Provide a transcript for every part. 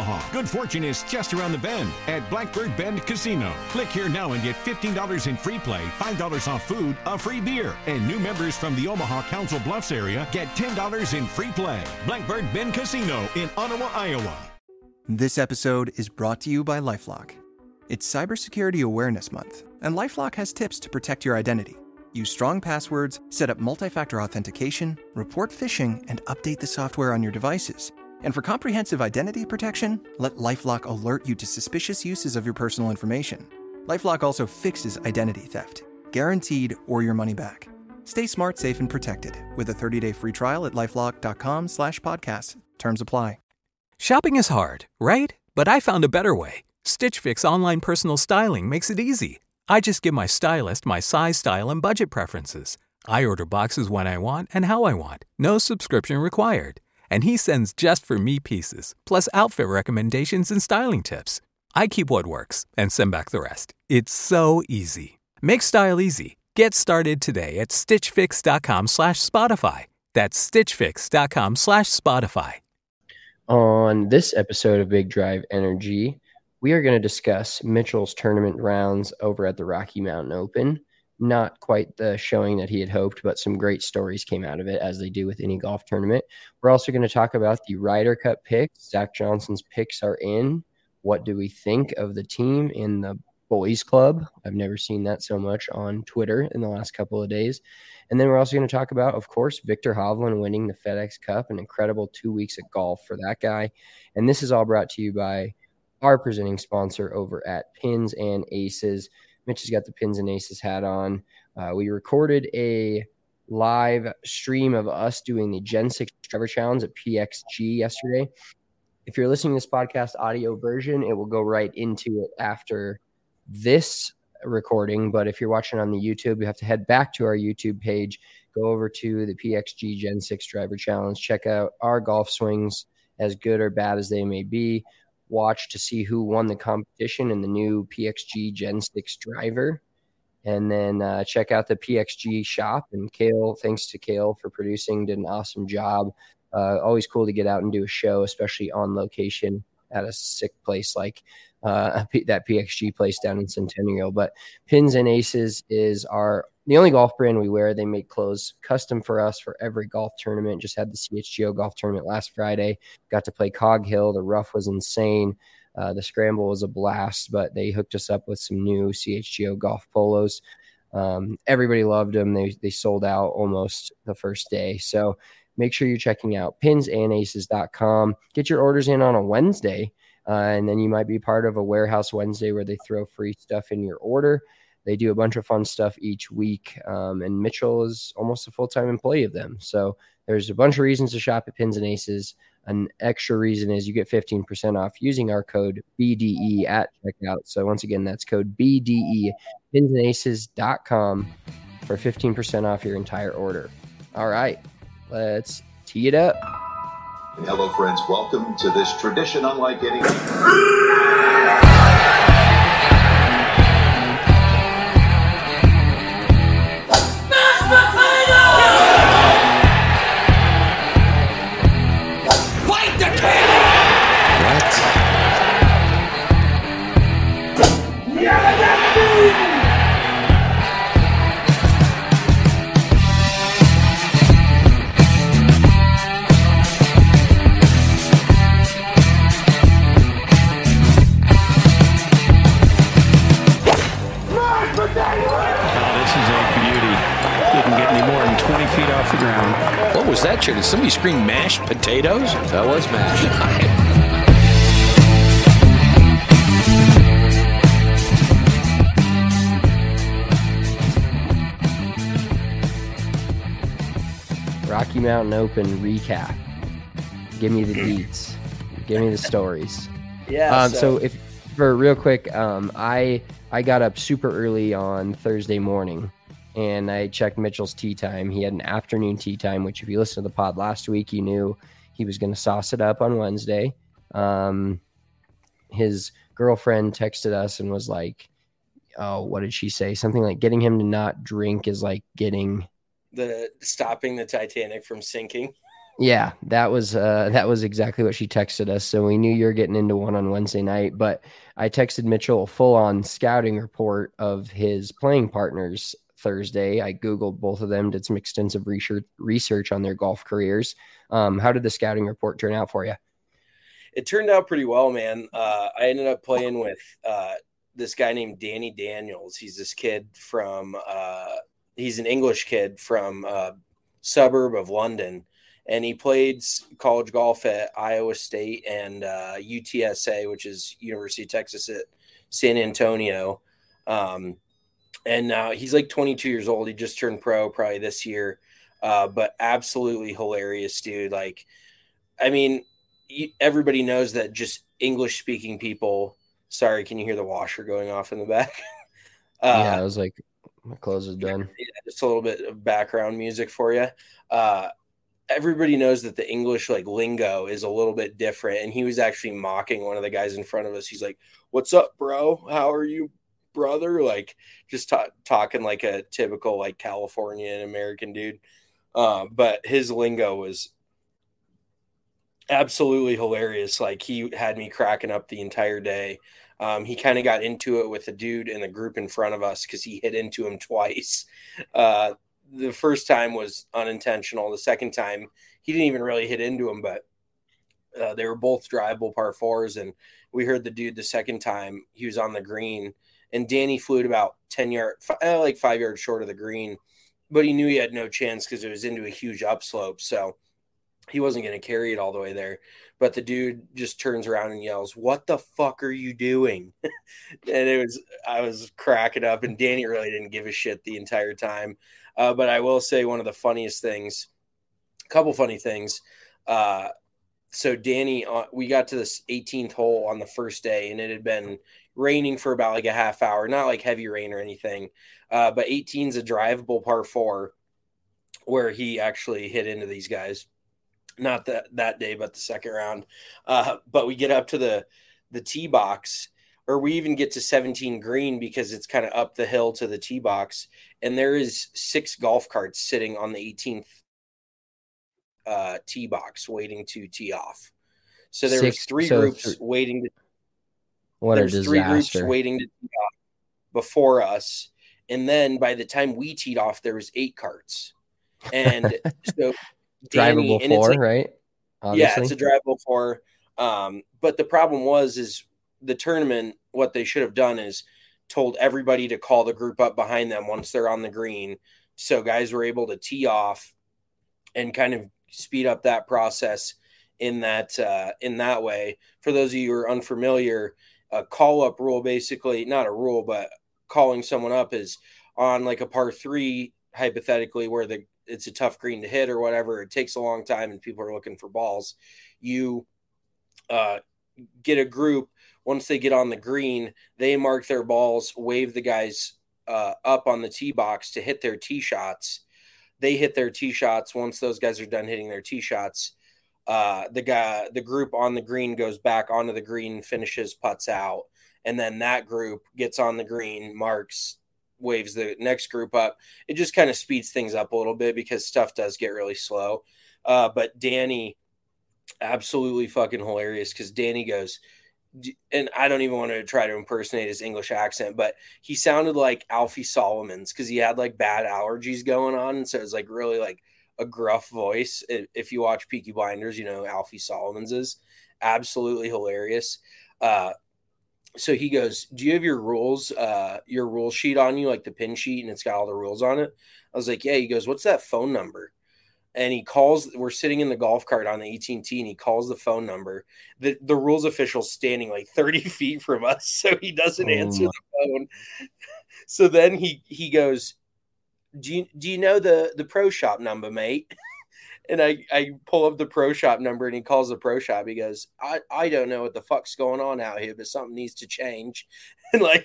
Omaha. Good fortune is just around the bend at Blackbird Bend Casino. Click here now and get $15 in free play, $5 off food, a free beer. And new members from the Omaha Council Bluffs area get $10 in free play. Blackbird Bend Casino in Ottawa, Iowa. This episode is brought to you by LifeLock. It's Cybersecurity Awareness Month, and LifeLock has tips to protect your identity. Use strong passwords, set up multi-factor authentication, report phishing, and update the software on your devices. And for comprehensive identity protection, let LifeLock alert you to suspicious uses of your personal information. LifeLock also fixes identity theft, guaranteed or your money back. Stay smart, safe, and protected with a 30-day free trial at LifeLock.com/podcast. Terms apply. Shopping is hard, right? But I found a better way. Stitch Fix online personal styling makes it easy. I just give my stylist my size, style, and budget preferences. I order boxes when I want and how I want. No subscription required. And he sends just for me pieces, plus outfit recommendations and styling tips. I keep what works and send back the rest. It's so easy. Make style easy. Get started today at stitchfix.com/Spotify. That's stitchfix.com/Spotify. On this episode of Big Drive Energy, we are going to discuss Mitchell's tournament rounds over at the Rocky Mountain Open. Not quite the showing that he had hoped, but some great stories came out of it, as they do with any golf tournament. We're also going to talk about the Ryder Cup picks. Zach Johnson's picks are in. What do we think of the team in the boys club? I've never seen that so much on Twitter in the last couple of days. And then we're also going to talk about, of course, Viktor Hovland winning the FedEx Cup, an incredible 2 weeks of golf for that guy. And this is all brought to you by our presenting sponsor over at Pins and Aces. Mitch has got the Pins and Aces hat on. We recorded a live stream of us doing the Gen 6 Driver Challenge at PXG yesterday. If you're listening to this podcast audio version, it will go right into it after this recording. But if you're watching on the YouTube, you have to head back to our YouTube page, go over to the PXG Gen 6 Driver Challenge, check out our golf swings, as good or bad as they may be. Watch to see who won the competition in the new PXG Gen 6 driver. And then check out the PXG shop. And Kale, thanks to Kale for producing, did an awesome job. Always cool to get out and do a show, especially on location at a sick place like that PXG place down in Centennial. But Pins and Aces is the only golf brand we wear. They make clothes custom for us for every golf tournament. Just had the CHGO golf tournament last Friday. Got to play Cog Hill. The rough was insane. The scramble was a blast, but they hooked us up with some new CHGO golf polos. Everybody loved them. They sold out almost the first day. So make sure you're checking out pinsandaces.com. Get your orders in on a Wednesday, and then you might be part of a Warehouse Wednesday where they throw free stuff in your order. They do a bunch of fun stuff each week, and Mitchell is almost a full-time employee of them. So there's a bunch of reasons to shop at Pins and Aces. An extra reason is you get 15% off using our code BDE at checkout. So once again, that's code BDE, pinsandaces.com for 15% off your entire order. All right, let's tee it up. Hello, friends. Welcome to this tradition unlike any. What was that, Did somebody scream mashed potatoes? That was mashed. Rocky Mountain Open recap. Give me the deets. Give me the stories. Yeah. So if for real quick, I got up super early on Thursday morning, and I checked Mitchell's tee time. He had an afternoon tee time, which if you listened to the pod last week, you knew he was going to sauce it up on Wednesday. His girlfriend texted us and was like, "Oh, what did she say? Something like getting him to not drink is like getting." Stopping the Titanic from sinking. Yeah, that was exactly what she texted us. So we knew you were getting into one on Wednesday night, but I texted Mitchell a full-on scouting report of his playing partners Thursday. I Googled both of them, did some extensive research on their golf careers. How did the scouting report turn out for you? It turned out pretty well, man. I ended up playing with this guy named Danny Daniels. He's this kid from he's an English kid from suburb of London, and he played college golf at Iowa State and UTSA, which is University of Texas at San Antonio. And now he's like 22 years old. He just turned pro probably this year, but absolutely hilarious dude. Like, I mean, everybody knows that just English speaking people. Sorry, can you hear the washer going off in the back? Yeah, I was like, my clothes is done. Yeah, just a little bit of background music for you. Everybody knows that the English like lingo is a little bit different, and he was actually mocking one of the guys in front of us. He's like, "What's up, bro? How are you, brother?" Like just talking like a typical like Californian American dude. But his lingo was absolutely hilarious. Like he had me cracking up the entire day. He kind of got into it with a dude in the group in front of us because he hit into him twice. The first time was unintentional. The second time, he didn't even really hit into him, but they were both drivable par fours. And we heard the dude the second time he was on the green, and Danny flew it about 10 yards, like 5 yards short of the green, but he knew he had no chance because it was into a huge upslope. So he wasn't going to carry it all the way there. But the dude just turns around and yells, "What the fuck are you doing?" And I was cracking up, and Danny really didn't give a shit the entire time. But I will say one of the funniest things, a couple funny things. So Danny, we got to this 18th hole on the first day, and it had been raining for about like a half hour, not like heavy rain or anything. But 18 is a drivable par four where he actually hit into these guys. Not that day, but the second round. But we get up to the tee box, or we even get to 17 green because it's kind of up the hill to the tee box. And there is 6 golf carts sitting on the 18th tee box waiting to tee off. So there was 3 groups waiting to. What a disaster. 3 groups waiting to tee off before us. And then by the time we teed off, there was 8 carts. And so Danny, drivable 4, like, right? Obviously. Yeah, it's a drivable 4. But the problem is the tournament, what they should have done is told everybody to call the group up behind them once they're on the green. So guys were able to tee off and kind of speed up that process in that way. For those of you who are unfamiliar, a call-up rule, basically, not a rule, but calling someone up is on like a par 3, hypothetically, where it's a tough green to hit or whatever. It takes a long time and people are looking for balls. You get a group. Once they get on the green, they mark their balls, wave the guys up on the tee box to hit their tee shots. They hit their tee shots. Once those guys are done hitting their tee shots, the group on the green goes back onto the green, finishes, putts out, and then that group gets on the green, marks, waves the next group up. It just kind of speeds things up a little bit because stuff does get really slow. But Danny, absolutely fucking hilarious, because Danny goes, and I don't even want to try to impersonate his English accent, but he sounded like Alfie Solomons because he had like bad allergies going on. And so it was like really like a gruff voice. If you watch Peaky Blinders, you know Alfie Solomons is absolutely hilarious. So he goes, "Do you have your rule sheet on you, like the pin sheet, and it's got all the rules on it?" I was like, "Yeah." He goes, "What's that phone number?" And he calls, we're sitting in the golf cart on the 18 tee, and he calls the phone number. The rules official's standing like 30 feet from us, so he doesn't answer the phone. So then he goes, do you know the pro shop number, mate? And I pull up the pro shop number, and he calls the pro shop. He goes, I don't know what the fuck's going on out here, but something needs to change. And like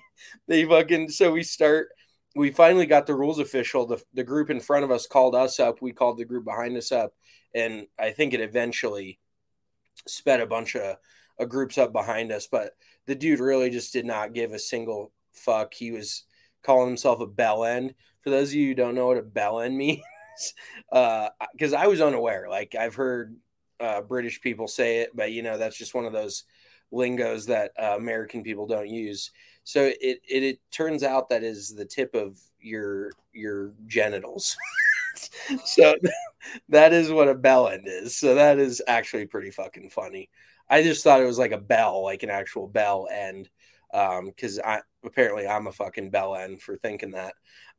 we finally got the rules official. The group in front of us called us up. We called the group behind us up. And I think it eventually sped a bunch of groups up behind us. But the dude really just did not give a single fuck. He was calling himself a bell end. For those of you who don't know what a bell end means, because I was unaware. Like I've heard British people say it, but that's just one of those lingos that American people don't use. So it turns out that is the tip of your genitals. So that is what a bell end is. So that is actually pretty fucking funny. I just thought it was like a bell, like an actual bell end, because apparently I'm a fucking bell end for thinking that.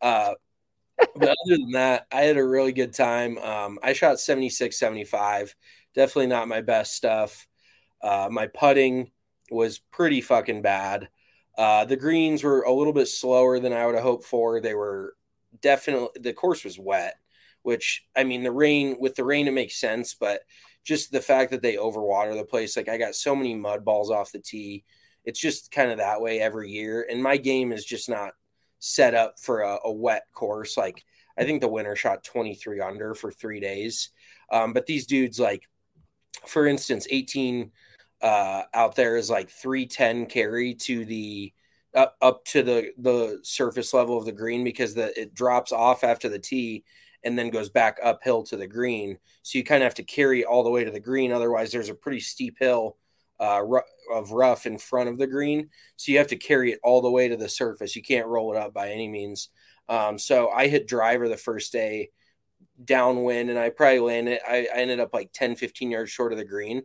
But other than that, I had a really good time. I shot 76, 75. Definitely not my best stuff. My putting was pretty fucking bad. The greens were a little bit slower than I would have hoped for. They were definitely, the course was wet, which, I mean, with the rain, it makes sense, but just the fact that they overwater the place, like I got so many mud balls off the tee. It's just kind of that way every year. And my game is just not set up for a wet course. Like I think the winner shot 23 under for 3 days. But these dudes, like, for instance, 18 out there is like 310 carry to the up to the surface level of the green, because it drops off after the tee and then goes back uphill to the green. So you kind of have to carry all the way to the green. Otherwise, there's a pretty steep hill of rough in front of the green. So you have to carry it all the way to the surface. You can't roll it up by any means. So I hit driver the first day downwind, and I probably landed. I ended up like 10, 15 yards short of the green.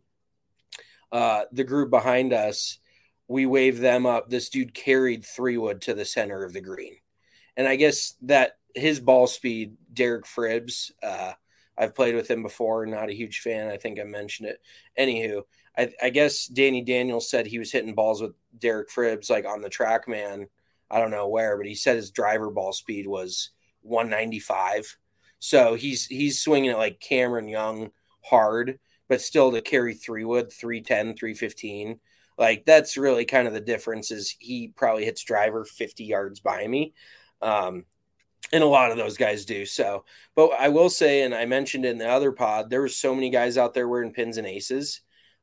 The group behind us, we waved them up. This dude carried 3-wood to the center of the green. And I guess that his ball speed, Derek Fribbs, I've played with him before, not a huge fan. I think I mentioned it. Anywho, I guess Danny Daniels said he was hitting balls with Derek Fribbs, like on the TrackMan. I don't know where, but he said his driver ball speed was 195. So he's swinging it like Cameron Young hard, but still to carry 3-wood, 310, 315. Like that's really kind of the difference, is he probably hits driver 50 yards by me. And a lot of those guys do. So, but I will say, and I mentioned in the other pod, there were so many guys out there wearing pins and aces.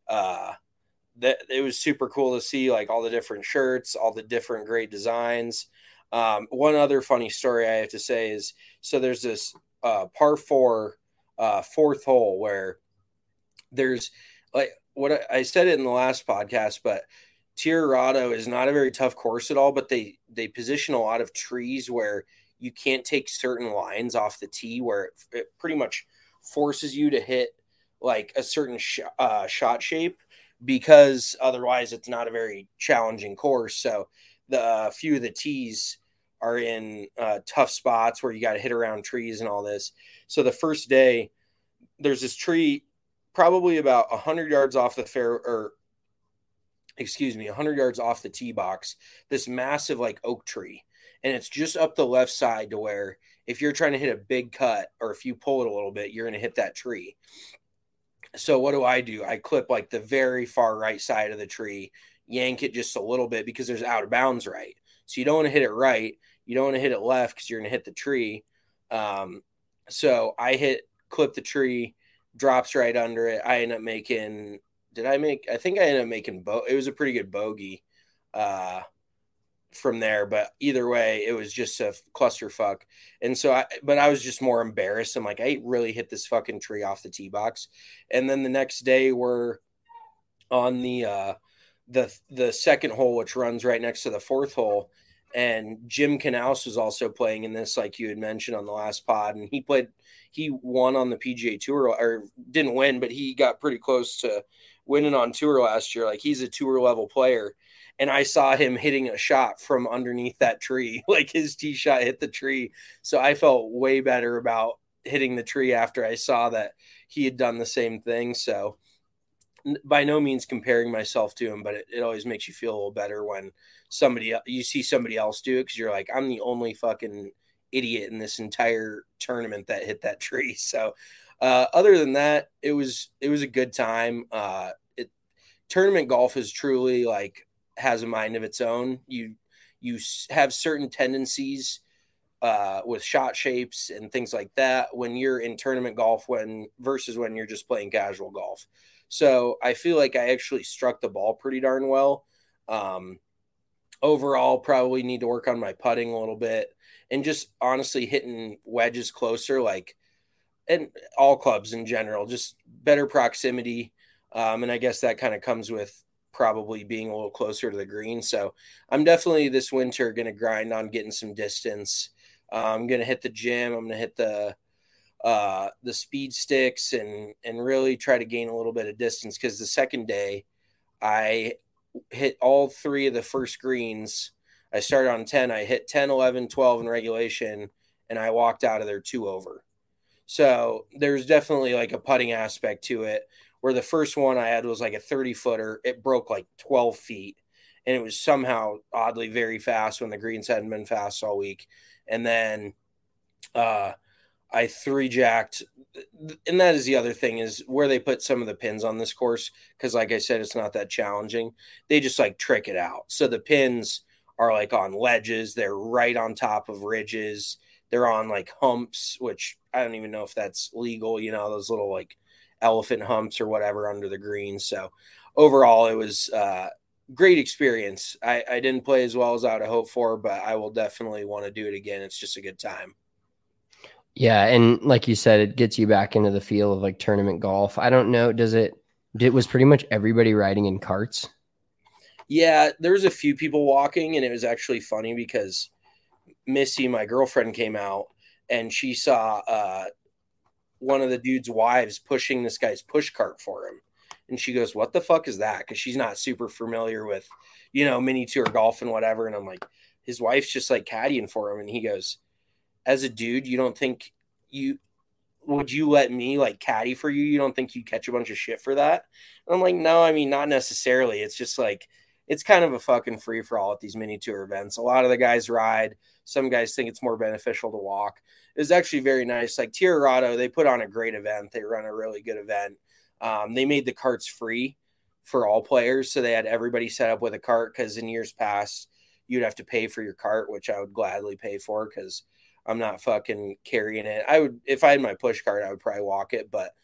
That it was super cool to see, like all the different shirts, all the different great designs. One other funny story I have to say is, so there's this par 4 fourth hole where there's like what I said it in the last podcast, but Tirarado is not a very tough course at all, but they position a lot of trees where you can't take certain lines off the tee, where it pretty much forces you to hit like a certain shot shape, because otherwise it's not a very challenging course. So the few of the tees are in tough spots where you got to hit around trees and all this. So the first day, there's this tree probably about 100 yards off the 100 yards off the tee box, this massive like oak tree. And it's just up the left side to where if you're trying to hit a big cut, or if you pull it a little bit, you're going to hit that tree. So what do? I clip like the very far right side of the tree, yank it just a little bit because there's out of bounds right. So you don't want to hit it right. You don't want to hit it left because you're going to hit the tree. So I clip the tree, drops right under it. I end up making, I think I ended up making, it was a pretty good bogey from there, but either way, it was just a clusterfuck. And so I was just more embarrassed. I'm like, I really hit this fucking tree off the tee box. And then the next day we're on the second hole, which runs right next to the fourth hole. And Jim Knaus was also playing in this, like you had mentioned on the last pod. And he won on the PGA Tour, or didn't win, but he got pretty close to winning on tour last year. Like he's a tour level player. And I saw him hitting a shot from underneath that tree, like his tee shot hit the tree. So I felt way better about hitting the tree after I saw that he had done the same thing. So by no means comparing myself to him, but it always makes you feel a little better when you see somebody else do it, because you're like, I'm the only fucking idiot in this entire tournament that hit that tree. So other than that, it was a good time. Tournament golf is truly like has a mind of its own. You have certain tendencies with shot shapes and things like that when you're in tournament golf versus when you're just playing casual golf. So I feel like I actually struck the ball pretty darn well. Overall, probably need to work on my putting a little bit, and just honestly hitting wedges closer. Like and all clubs in general, just better proximity. And I guess that kind of comes with probably being a little closer to the green. So I'm definitely this winter going to grind on getting some distance. I'm going to hit the gym. I'm going to hit the speed sticks and really try to gain a little bit of distance. Cause the second day I hit all three of the first greens. I started on 10. I hit 10, 11, 12 in regulation, and I walked out of there 2 over. So there's definitely like a putting aspect to it, where the first one I had was like a 30-footer. It broke like 12 feet, and it was somehow oddly very fast when the greens hadn't been fast all week. And then I 3-jacked, and that is the other thing, is where they put some of the pins on this course, because like I said, it's not that challenging. They just like trick it out. So the pins are like on ledges. They're right on top of ridges. They're on like humps, which I don't even know if that's legal, those little like elephant humps or whatever under the green. So overall, it was great experience. I didn't play as well as I would have hoped for, but I will definitely want to do it again. It's just a good time. Yeah, and like you said, it gets you back into the feel of like tournament golf. I don't know, was pretty much everybody riding in carts? Yeah, there was a few people walking, and it was actually funny because Missy, my girlfriend, came out and she saw one of the dude's wives pushing this guy's push cart for him. And she goes, "What the fuck is that?" Because she's not super familiar with, mini tour golf and whatever. And I'm like, his wife's just like caddying for him. And he goes, "As a dude, you don't think would you let me like caddy for you? You don't think you catch a bunch of shit for that?" And I'm like, "No, I mean, not necessarily. It's just like, it's kind of a fucking free for all at these mini tour events. A lot of the guys ride. Some guys think it's more beneficial to walk." It was actually very nice. Like Tirarado, they put on a great event. They run a really good event. They made the carts free for all players. So they had everybody set up with a cart, because in years past, you'd have to pay for your cart, which I would gladly pay for because I'm not fucking carrying it. I would, if I had my push cart, I would probably walk it, but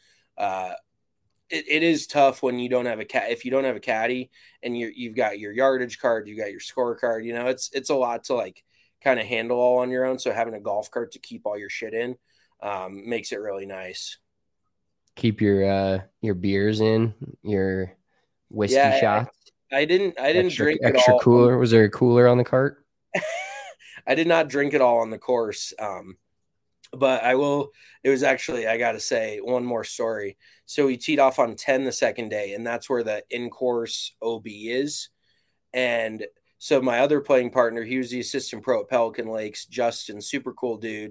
it is tough when you don't have if you don't have a caddy and you've got your yardage card, you got your scorecard, it's a lot to like kind of handle all on your own. So having a golf cart to keep all your shit in makes it really nice. Keep your beers in, your whiskey shots. I didn't drink it all. Extra cooler. Was there a cooler on the cart? I did not drink it all on the course. But I will, it was actually, I got to say one more story. So we teed off on 10 the second day, and that's where the in-course OB is. And so my other playing partner, he was the assistant pro at Pelican Lakes, Justin, super cool dude.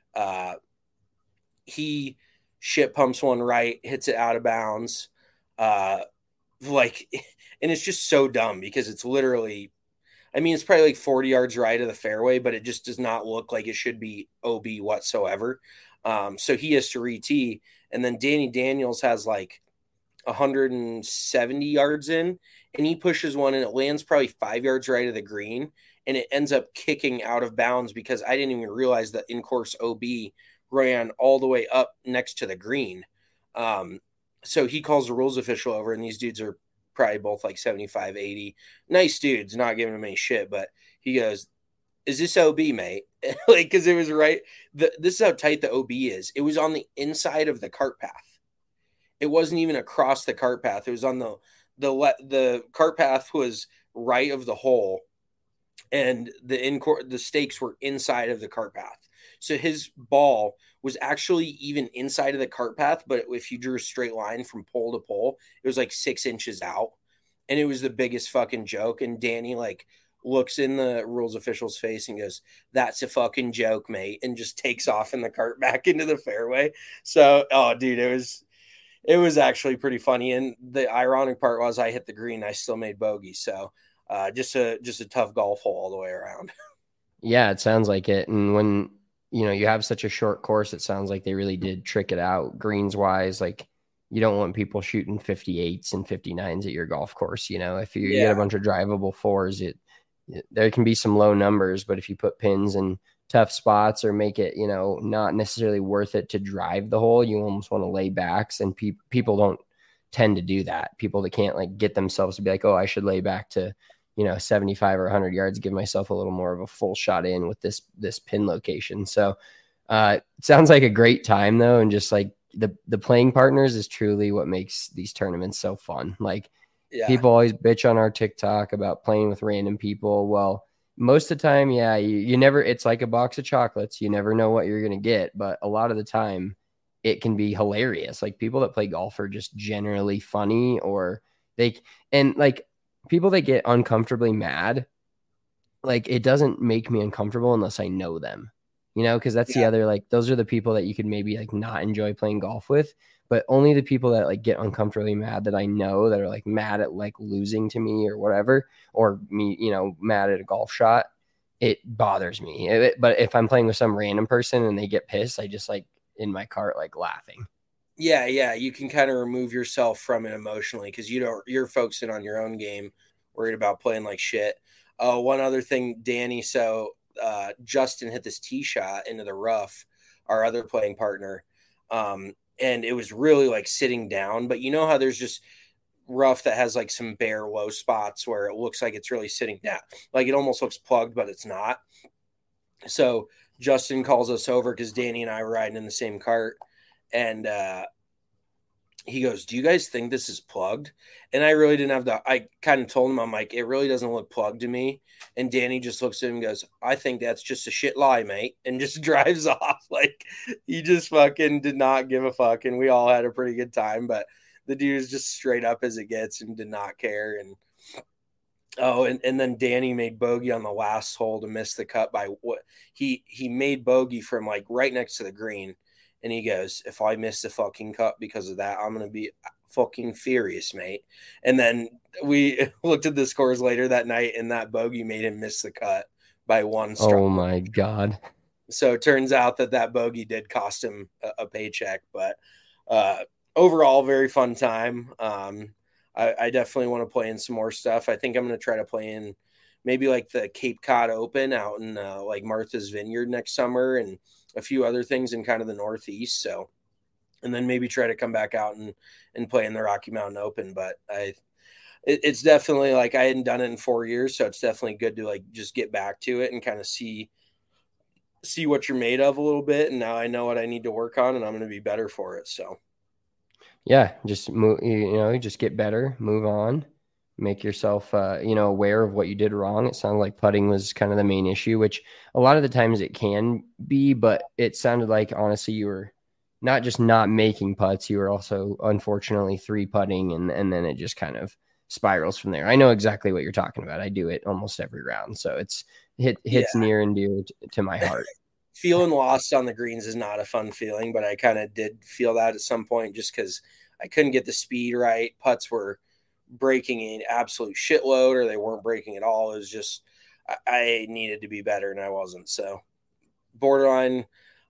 He shit pumps one right, hits it out of bounds. And it's just so dumb because it's literally, it's probably like 40 yards right of the fairway, but it just does not look like it should be OB whatsoever. So he has to re-tee. And then Danny Daniels has like 170 yards in, and he pushes one and it lands probably 5 yards right of the green. And it ends up kicking out of bounds because I didn't even realize that in-course OB ran all the way up next to the green. So he calls the rules official over, and these dudes are probably both like 75, 80. Nice dudes, not giving him any shit. But he goes, "Is this OB, mate?" Because it was right. This is how tight the OB is. It was on the inside of the cart path. It wasn't even across the cart path. It was on the cart path was right of the hole, and the stakes were inside of the cart path. So his ball was actually even inside of the cart path, but if you drew a straight line from pole to pole, it was like 6 inches out, and it was the biggest fucking joke. And Danny looks in the rules official's face and goes, "That's a fucking joke, mate," and just takes off in the cart back into the fairway. So, oh, dude, it was actually pretty funny. And the ironic part was I hit the green, I still made bogey. So, just a tough golf hole all the way around. Yeah, it sounds like it. And when you have such a short course, it sounds like they really did trick it out greens wise. Like, you don't want people shooting 58s and 59s at your golf course. If you get a bunch of drivable fours, there can be some low numbers, but if you put pins in tough spots or make it, not necessarily worth it to drive the hole, you almost want to lay backs. And people don't tend to do that. People that can't get themselves to be like, "Oh, I should lay back to, 75 or 100 yards, give myself a little more of a full shot in with this pin location." So Sounds like a great time though. And just like the playing partners is truly what makes these tournaments so fun. Like people always bitch on our TikTok about playing with random people. Well, most of the time, yeah, you never, it's like a box of chocolates. You never know what you're going to get. But a lot of the time it can be hilarious. Like people that play golf are just generally funny, or and like people that get uncomfortably mad, like it doesn't make me uncomfortable unless I know them, because that's the other, like, those are the people that you could maybe like not enjoy playing golf with, but only the people that like get uncomfortably mad that I know, that are like mad at like losing to me or whatever, or me, mad at a golf shot, it bothers me. But if I'm playing with some random person and they get pissed, I just like in my cart, like laughing. Yeah. You can kind of remove yourself from it emotionally because you're focusing on your own game, worried about playing like shit. One other thing, Danny. So Justin hit this tee shot into the rough, our other playing partner. And it was really like sitting down, but you know how there's just rough that has like some bare low spots where it looks like it's really sitting down. Like it almost looks plugged, but it's not. So Justin calls us over because Danny and I were riding in the same cart. And he goes, "Do you guys think this is plugged?" And I really didn't have I kind of told him, I'm like, "It really doesn't look plugged to me." And Danny just looks at him and goes, "I think that's just a shit lie, mate," and just drives off. Like he just fucking did not give a fuck. And we all had a pretty good time, but the dude is just straight up as it gets and did not care. And and then Danny made bogey on the last hole to miss the cut by what he made bogey from like right next to the green. And he goes, "If I miss the fucking cut because of that, I'm going to be fucking furious, mate." And then we looked at the scores later that night, and that bogey made him miss the cut by one stroke. Oh, my God. So it turns out that bogey did cost him a paycheck. But overall, very fun time. I definitely want to play in some more stuff. I think I'm going to try to play in maybe like the Cape Cod Open out in like Martha's Vineyard next summer, and a few other things in kind of the Northeast. So, and then maybe try to come back out and play in the Rocky Mountain Open. But it's definitely like I hadn't done it in 4 years. So it's definitely good to like just get back to it and kind of see what you're made of a little bit. And now I know what I need to work on, and I'm going to be better for it. So yeah, just move, just get better, move on. Make yourself, aware of what you did wrong. It sounded like putting was kind of the main issue, which a lot of the times it can be, but it sounded like, honestly, you were not just not making putts. You were also, unfortunately, 3-putting, and then it just kind of spirals from there. I know exactly what you're talking about. I do it almost every round. So hits near and dear to my heart. Feeling lost on the greens is not a fun feeling, but I kind of did feel that at some point just because I couldn't get the speed right. Putts were breaking an absolute shitload, or they weren't breaking at all. It was just I needed to be better, and I wasn't. So borderline.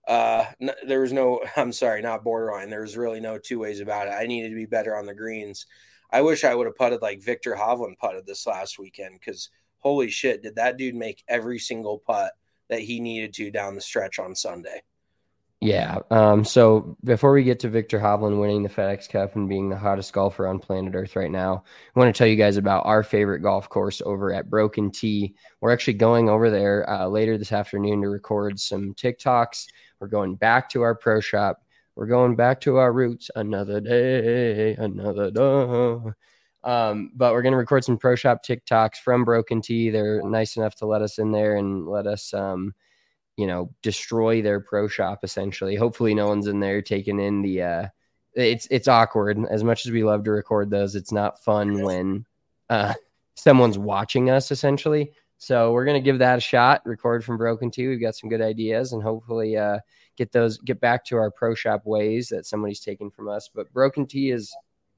There was no. I'm sorry, not borderline. There was really no two ways about it. I needed to be better on the greens. I wish I would have putted like Victor Hovland putted this last weekend, because holy shit, did that dude make every single putt that he needed to down the stretch on Sunday. Yeah. So before we get to Victor Hovland winning the FedEx Cup and being the hottest golfer on planet Earth right now, I want to tell you guys about our favorite golf course over at Broken Tee. We're actually going over there later this afternoon to record some TikToks. We're going back to our pro shop. We're going back to our roots. Another day, another day. But we're going to record some pro shop TikToks from Broken Tee. They're nice enough to let us in there and let us, destroy their pro shop, essentially. Hopefully no one's in there taking in the it's awkward. As much as we love to record those, it's not fun when someone's watching us, essentially. So we're going to give that a shot, record from Broken Tee. We've got some good ideas, and hopefully get back to our pro shop ways that somebody's taken from us. But Broken Tee is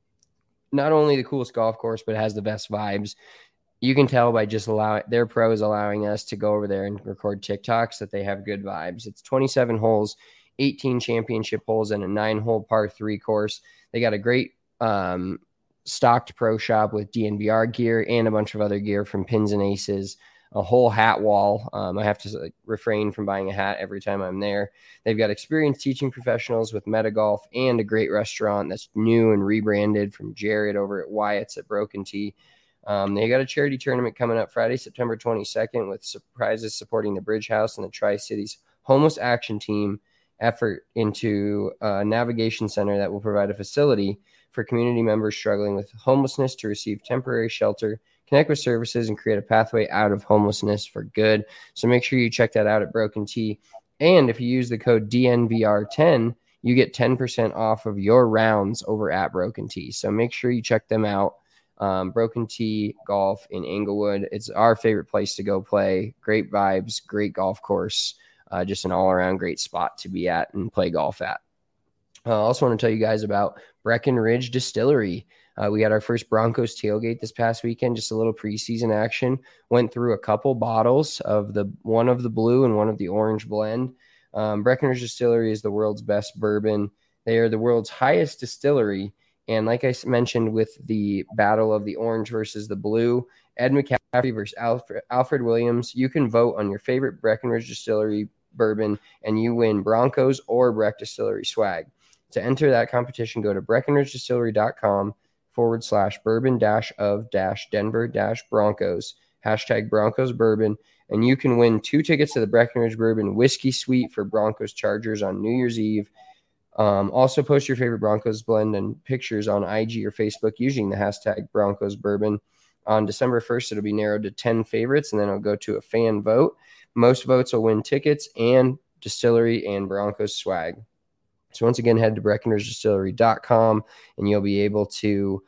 not only the coolest golf course, but it has the best vibes. You can tell by just their pros allowing us to go over there and record TikToks that they have good vibes. It's 27 holes, 18 championship holes, and a 9-hole par 3 course. They got a great stocked pro shop with DNVR gear and a bunch of other gear from Pins and Aces, a whole hat wall. I have to refrain from buying a hat every time I'm there. They've got experienced teaching professionals with Metagolf and a great restaurant that's new and rebranded from Jared over at Wyatt's at Broken Tee. They got a charity tournament coming up Friday, September 22nd, with surprises supporting the Bridge House and the Tri-Cities Homeless Action Team. effort into a navigation center that will provide a facility for community members struggling with homelessness to receive temporary shelter, connect with services, and create a pathway out of homelessness for good. So make sure you check that out at Broken T. And if you use the code DNVR10, you get 10% off of your rounds over at Broken T. So make sure you check them out. Broken T Golf in Englewood. It's our favorite place to go play. Great vibes, great golf course, just an all-around great spot to be at and play golf at. I also want to tell you guys about Breckenridge Distillery. We had our first Broncos tailgate this past weekend, just a little preseason action. Went through a couple bottles of one of the blue and one of the orange blend. Breckenridge Distillery is the world's best bourbon. They are the world's highest distillery. And like I mentioned with the battle of the orange versus the blue, Ed McCaffrey versus Alfred Williams, you can vote on your favorite Breckenridge Distillery bourbon and you win Broncos or Breck Distillery swag. To enter that competition, go to breckenridgedistillery.com/bourbon-of-Denver-Broncos, #Broncos Bourbon, and you can win 2 tickets to the Breckenridge Bourbon Whiskey Suite for Broncos Chargers on New Year's Eve. Also post your favorite Broncos blend and pictures on IG or Facebook using the #Broncos Bourbon. On December 1st, it'll be narrowed to 10 favorites, and then it'll go to a fan vote. Most votes will win tickets and distillery and Broncos swag. So once again, head to breckenridgedistillery.com, and you'll be able to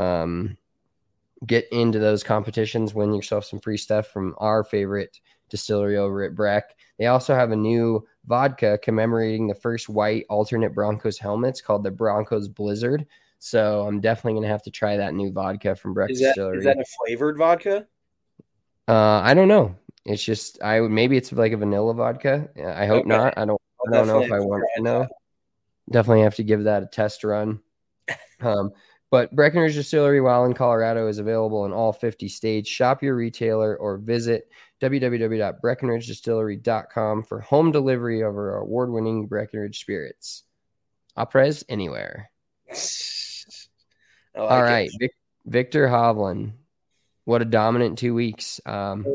get into those competitions, win yourself some free stuff from our favorite distillery over at Breck. They also have a new vodka commemorating the first white alternate Broncos helmets called the Broncos Blizzard. So I'm definitely going to have to try that new vodka from Breck Distillery. Is that a flavored vodka? I don't know. It's just maybe it's like a vanilla vodka. I hope not. I don't know if I want to know. Definitely have to give that a test run. But Breckenridge Distillery, while in Colorado, is available in all 50 states. Shop your retailer or visit www.breckenridgedistillery.com for home delivery of our award-winning Breckenridge spirits. Aprez anywhere. All right, Viktor Hovland. What a dominant 2 weeks. Man.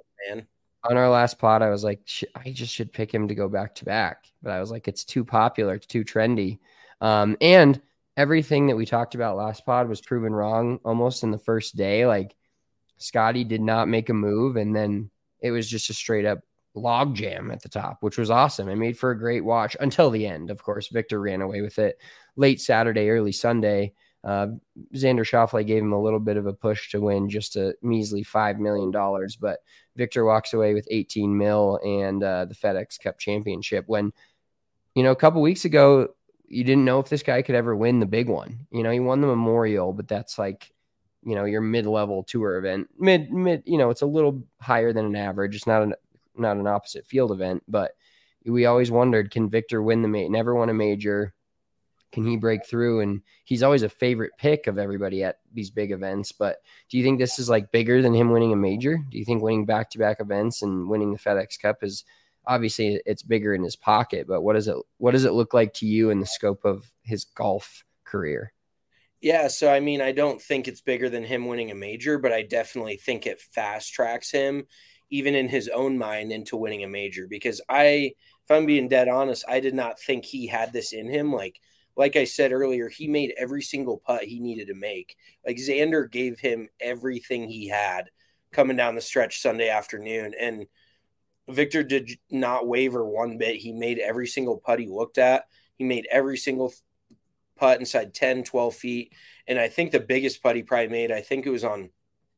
On our last pod, I was like, I just should pick him to go back-to-back. But I was like, it's too popular. It's too trendy. And everything that we talked about last pod was proven wrong almost in the first day. Like, Scotty did not make a move, and then it was just a straight-up log jam at the top, which was awesome. It made for a great watch until the end. Of course, Viktor ran away with it late Saturday, early Sunday. Xander Schauffele gave him a little bit of a push to win just a measly $5 million, but Viktor walks away with $18 million and the FedEx Cup championship when, a couple weeks ago, you didn't know if this guy could ever win the big one. He won the Memorial, but that's like, your mid-level tour event. Mid, it's a little higher than an average. It's not an opposite field event, but we always wondered, can Viktor win the major? Never won a major. Can he break through? And he's always a favorite pick of everybody at these big events. But do you think this is like bigger than him winning a major? Do you think winning back-to-back events and winning the FedEx Cup is obviously it's bigger in his pocket, but what does it look like to you in the scope of his golf career? Yeah. So, I don't think it's bigger than him winning a major, but I definitely think it fast tracks him even in his own mind into winning a major, because if I'm being dead honest, I did not think he had this in him. Like I said earlier, he made every single putt he needed to make. Like, Xander gave him everything he had coming down the stretch Sunday afternoon. And Viktor did not waver one bit. He made every single putt he looked at. He made every single putt inside 10, 12 feet. And I think the biggest putt he probably made, I think it was on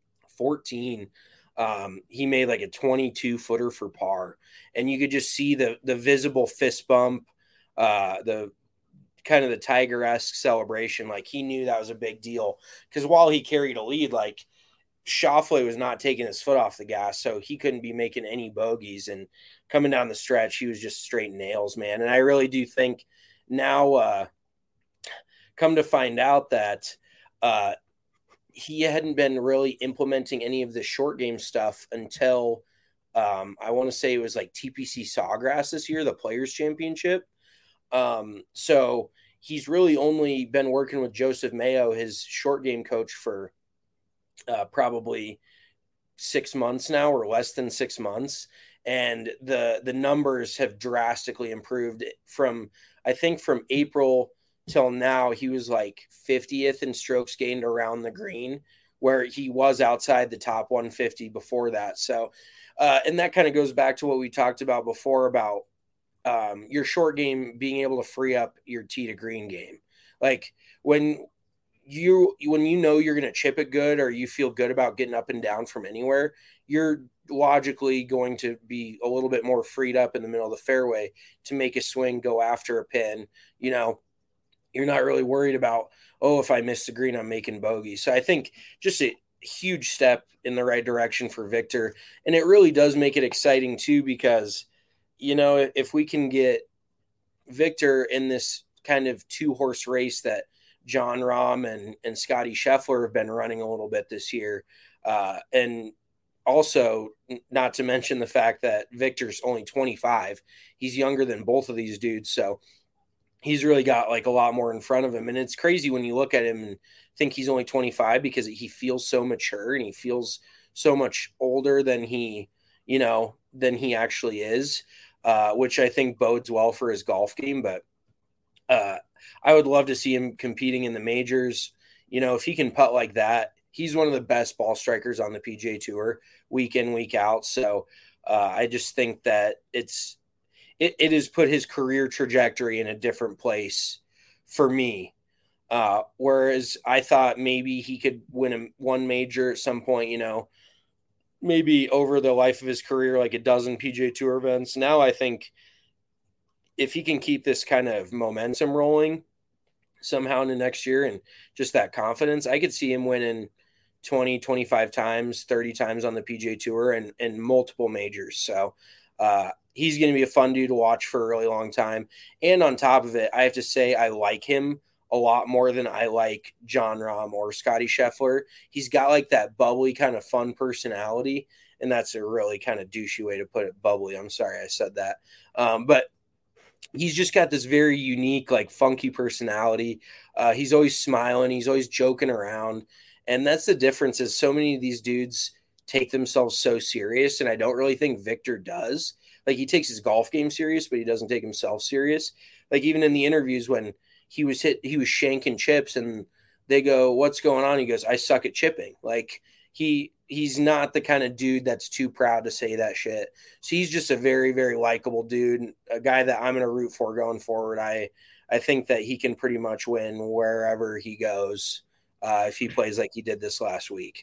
14. He made like a 22-footer for par. And you could just see the visible fist bump, the kind of the Tiger-esque celebration. Like, he knew that was a big deal, because while he carried a lead, like, Schauffele was not taking his foot off the gas, so he couldn't be making any bogeys. And coming down the stretch, he was just straight nails, man. And I really do think now, come to find out that he hadn't been really implementing any of the short game stuff until I want to say it was like TPC Sawgrass this year, the Players Championship. So he's really only been working with Joseph Mayo, his short game coach, for probably 6 months now, or less than 6 months. And the numbers have drastically improved from, I think from April till now, he was like 50th in strokes gained around the green, where he was outside the top 150 before that. So, and that kind of goes back to what we talked about before about your short game being able to free up your tee to green game. Like when you know you're going to chip it good, or you feel good about getting up and down from anywhere, you're logically going to be a little bit more freed up in the middle of the fairway to make a swing, go after a pin. You know, you're not really worried about, oh, if I miss the green, I'm making bogey. So I think just a huge step in the right direction for Viktor. And it really does make it exciting too, because, you know, if we can get Viktor in this kind of 2-horse race that Jon Rahm and Scotty Scheffler have been running a little bit this year, and also not to mention the fact that Viktor's only 25. He's younger than both of these dudes. So he's really got like a lot more in front of him. And it's crazy when you look at him and think he's only 25, because he feels so mature and he feels so much older than he actually is, which I think bodes well for his golf game. But I would love to see him competing in the majors. You know, if he can putt like that, he's one of the best ball strikers on the PGA Tour week in, week out. So I just think that it has put his career trajectory in a different place for me. Whereas I thought maybe he could win one major at some point, you know, maybe over the life of his career, like a dozen PGA Tour events. Now I think if he can keep this kind of momentum rolling somehow in the next year and just that confidence, I could see him winning 20, 25 times, 30 times on the PGA Tour and multiple majors. So he's going to be a fun dude to watch for a really long time. And on top of it, I have to say I like him a lot more than I like Jon Rahm or Scotty Scheffler. He's got like that bubbly kind of fun personality, and that's a really kind of douchey way to put it, bubbly. I'm sorry I said that. But he's just got this very unique, like funky personality. He's always smiling. He's always joking around. And that's the difference, is so many of these dudes take themselves so serious. And I don't really think Viktor does. Like, he takes his golf game serious, but he doesn't take himself serious. Like, even in the interviews when he was shanking chips and they go, "What's going on?" He goes, "I suck at chipping." Like, he's not the kind of dude that's too proud to say that shit. So he's just a very, very likable dude, a guy that I'm going to root for going forward. I think that he can pretty much win wherever he goes if he plays like he did this last week.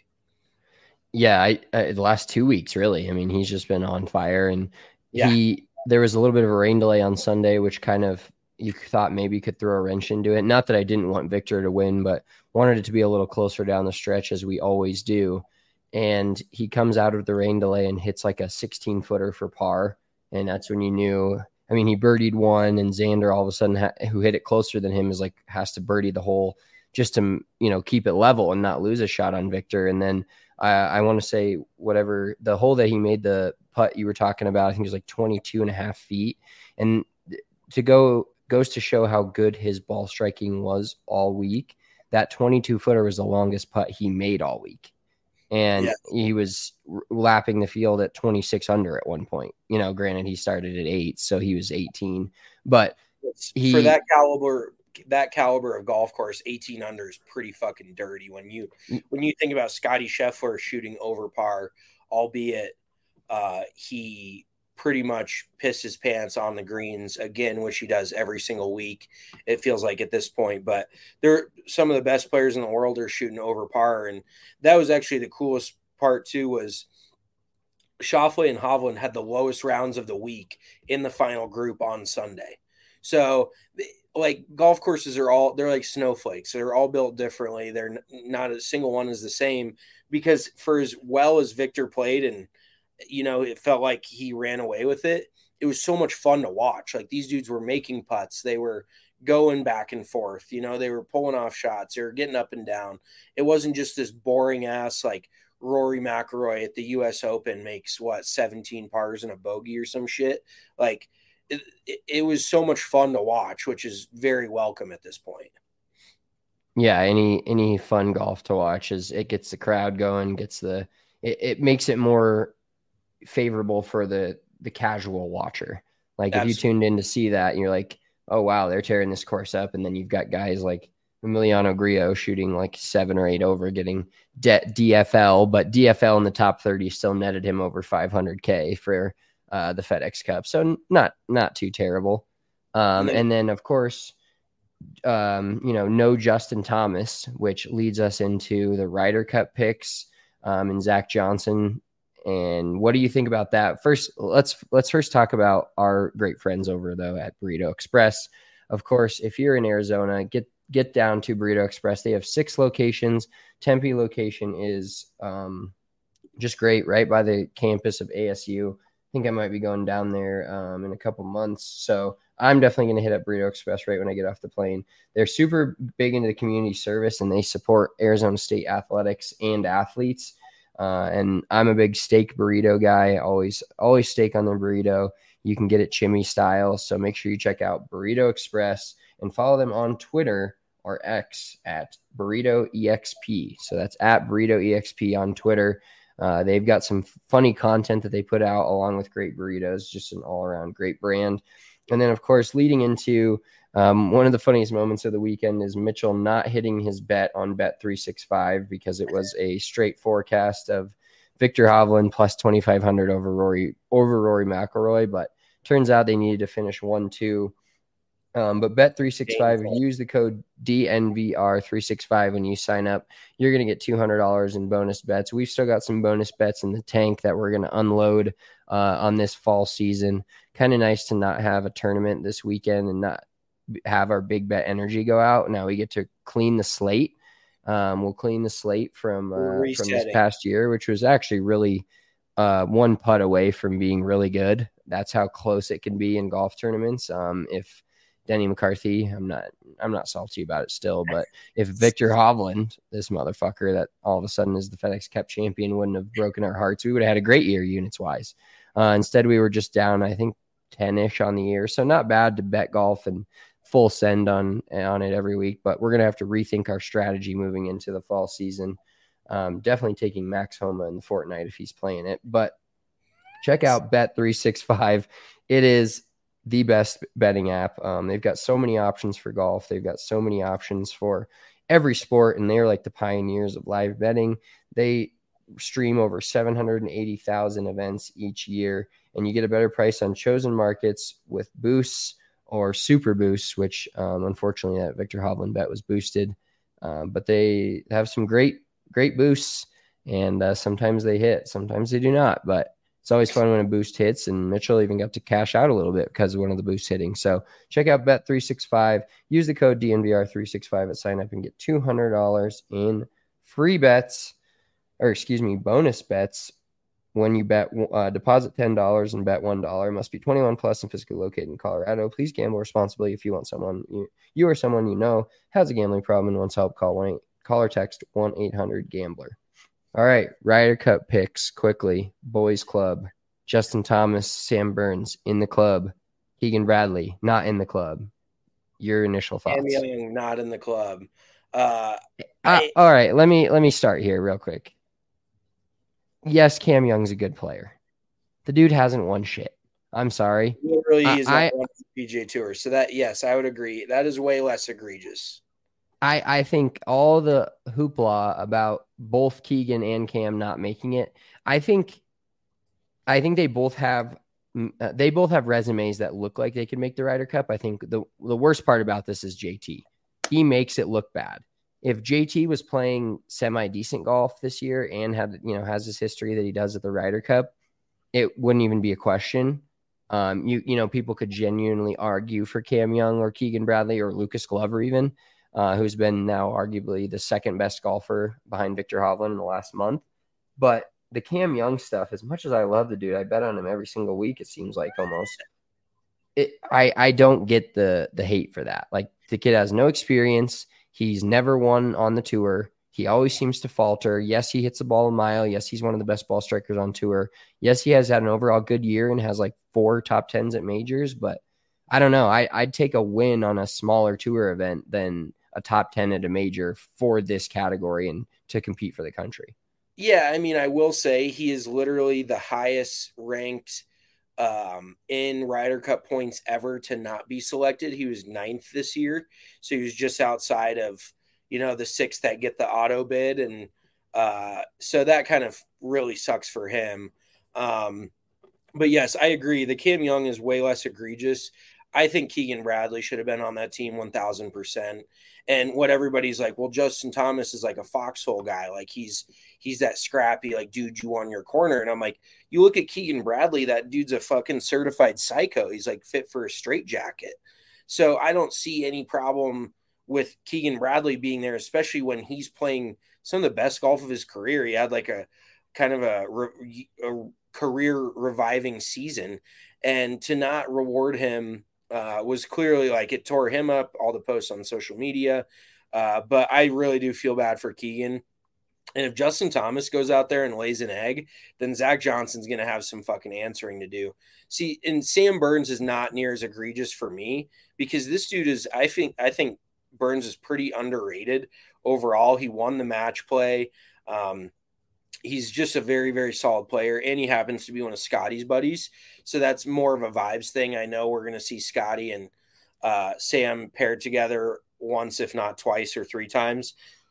Yeah, the last 2 weeks, really. I mean, he's just been on fire. And there was a little bit of a rain delay on Sunday, which kind of you thought maybe could throw a wrench into it. Not that I didn't want Viktor to win, but wanted it to be a little closer down the stretch, as we always do. And he comes out of the rain delay and hits like a 16-footer for par. And that's when you knew. I mean, he birdied one, and Xander all of a sudden, who hit it closer than him, has to birdie the hole just to, you know, keep it level and not lose a shot on Viktor. And then I want to say whatever the hole that he made, the putt you were talking about, I think it was like 22 and a half feet. And goes to show how good his ball striking was all week. That 22-footer was the longest putt he made all week. And he was lapping the field at 26 under at one point. You know, granted, he started at 8, so he was 18. But for that caliber of golf course, 18 under is pretty fucking dirty. When you think about Scotty Scheffler shooting over par, albeit he pretty much pissed his pants on the greens again, which he does every single week, it feels like at this point. But some of the best players in the world are shooting over par. And that was actually the coolest part too, was Schauffele and Hovland had the lowest rounds of the week in the final group on Sunday. So like golf courses they're like snowflakes. They're all built differently. They're not a single one is the same, because for as well as Viktor played, and you know, it felt like he ran away with it, it was so much fun to watch. Like, these dudes were making putts. They were going back and forth. You know, they were pulling off shots. They were getting up and down. It wasn't just this boring ass, like Rory McIlroy at the US Open makes 17 pars and a bogey or some shit. Like, it was so much fun to watch, which is very welcome at this point. Yeah, any fun golf to watch it gets the crowd going, it makes it more favorable for the casual watcher. Like if you tuned in to see that and you're like, oh wow, they're tearing this course up, and then you've got guys like Emiliano Grillo shooting like 7 or 8 over, getting DFL, but DFL in the top 30 still netted him over 500K for the FedEx Cup. So not too terrible. And then of course, no Justin Thomas, which leads us into the Ryder Cup picks, and Zach Johnson. And what do you think about that? First, let's first talk about our great friends over though at Burrito Express. Of course, if you're in Arizona, get down to Burrito Express. They have 6 locations. Tempe location is just great, right by the campus of ASU. I think I might be going down there in a couple months. So I'm definitely going to hit up Burrito Express right when I get off the plane. They're super big into the community service, and they support Arizona State athletics and athletes. And I'm a big steak burrito guy. Always steak on their burrito. You can get it chimney style. So make sure you check out Burrito Express and follow them on Twitter or X at Burrito EXP. So that's at Burrito EXP on Twitter. They've got some funny content that they put out along with great burritos, just an all around great brand. And then of course, leading into one of the funniest moments of the weekend is Mitchell not hitting his bet on Bet365 because it was a straight forecast of Victor Hovland plus 2,500 over Rory McIlroy, but turns out they needed to finish 1-2. But Bet365, if you use the code DNVR365 when you sign up, you're going to get $200 in bonus bets. We've still got some bonus bets in the tank that we're going to unload on this fall season. Kind of nice to not have a tournament this weekend and not have our big bet energy go out. Now we get to clean the slate. We'll clean the slate from this past year, which was actually really one putt away from being really good. That's how close it can be in golf tournaments. If Denny McCarthy, I'm not salty about it still, but if Victor Hovland, this motherfucker that all of a sudden is the FedEx Cup champion, wouldn't have broken our hearts, we would have had a great year units wise. Instead, we were just down, I think, 10-ish on the year. So not bad to bet golf and full send on it every week, but we're going to have to rethink our strategy moving into the fall season. Definitely taking Max Homa in the fortnight if he's playing it, but check out Bet365. It is the best betting app. They've got so many options for golf. They've got so many options for every sport, and they're like the pioneers of live betting. They stream over 780,000 events each year, and you get a better price on chosen markets with boosts or super boosts, which unfortunately that Victor Hovland bet was boosted. But they have some great boosts, and sometimes they hit, sometimes they do not. But it's always fun when a boost hits, and Mitchell even got to cash out a little bit because of one of the boosts hitting. So check out Bet365. Use the code DNVR365 at sign up and get $200 in free bets, bonus bets when you bet. Deposit $10 and bet $1. Must be 21 plus and physically located in Colorado. Please gamble responsibly. If you want someone you or someone you know has a gambling problem and wants help, call or text 1-800-GAMBLER. All right, Ryder Cup picks quickly. Boys Club. Justin Thomas, Sam Burns in the club. Keegan Bradley not in the club. Your initial thoughts? Cam Young not in the club. All right, let me start here real quick. Yes, Cam Young's a good player. The dude hasn't won shit. I'm sorry. Literally, he's not won the PGA Tour. So that, yes, I would agree. That is way less egregious. I think all the hoopla about both Keegan and Cam not making it, I think they both have resumes that look like they could make the Ryder Cup. I think the worst part about this is JT. He makes it look bad. If JT was playing semi-decent golf this year and has this history that he does at the Ryder Cup, it wouldn't even be a question. People could genuinely argue for Cam Young or Keegan Bradley or Lucas Glover even. Who's been now arguably the second best golfer behind Victor Hovland in the last month. But the Cam Young stuff, as much as I love the dude, I bet on him every single week, it seems like almost. I don't get the hate for that. Like, the kid has no experience. He's never won on the tour. He always seems to falter. Yes, he hits the ball a mile. Yes, he's one of the best ball strikers on tour. Yes, he has had an overall good year and has like 4 top 10s at majors. But I don't know. I'd take a win on a smaller tour event than a top 10 at a major for this category and to compete for the country. Yeah, I mean, I will say he is literally the highest ranked in Ryder Cup points ever to not be selected. He was 9th this year, so he was just outside of the 6 that get the auto bid, and so that kind of really sucks for him. But yes, I agree. The Cam Young is way less egregious. I think Keegan Bradley should have been on that team 1000%. And what everybody's like, well, Justin Thomas is like a foxhole guy. Like he's that scrappy, like, dude, you on your corner. And I'm like, you look at Keegan Bradley, that dude's a fucking certified psycho. He's like fit for a straitjacket. So I don't see any problem with Keegan Bradley being there, especially when he's playing some of the best golf of his career. He had like a kind of a career reviving season, and to not reward him was clearly like it tore him up, all the posts on social media. But I really do feel bad for Keegan. And if Justin Thomas goes out there and lays an egg, then Zach Johnson's going to have some fucking answering to do. See, and Sam Burns is not near as egregious for me because this dude is, I think Burns is pretty underrated overall. He won the match play. He's just a very, very solid player, and he happens to be one of Scotty's buddies. So that's more of a vibes thing. I know we're going to see Scotty and Sam paired together once, if not twice or 3 times.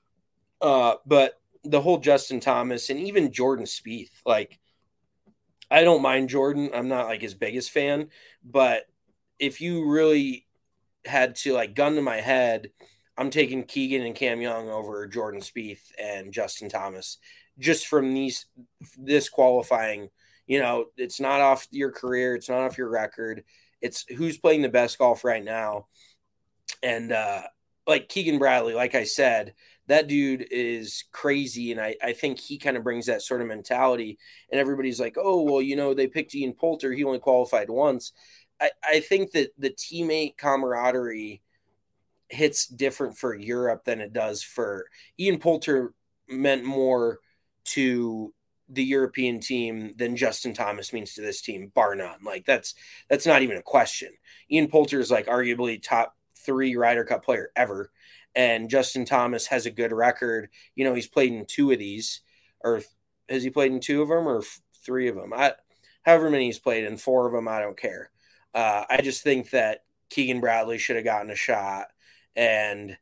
But the whole Justin Thomas and even Jordan Spieth, like, I don't mind Jordan. I'm not like his biggest fan, but if you really had to like gun to my head, I'm taking Keegan and Cam Young over Jordan Spieth and Justin Thomas. Just from this qualifying, it's not off your career. It's not off your record. It's who's playing the best golf right now. And like Keegan Bradley, like I said, that dude is crazy. And I think he kind of brings that sort of mentality. And everybody's like, oh, well, they picked Ian Poulter. He only qualified once. I think that the teammate camaraderie hits different for Europe than it does for Ian Poulter. Meant more to the European team than Justin Thomas means to this team, bar none. Like that's not even a question. Ian Poulter is like arguably top 3 Ryder Cup player ever. And Justin Thomas has a good record. He's played in 2 of these, or has he played in 2 of them or 3 of them? However many he's played in, 4 of them, I don't care. I just think that Keegan Bradley should have gotten a shot. And,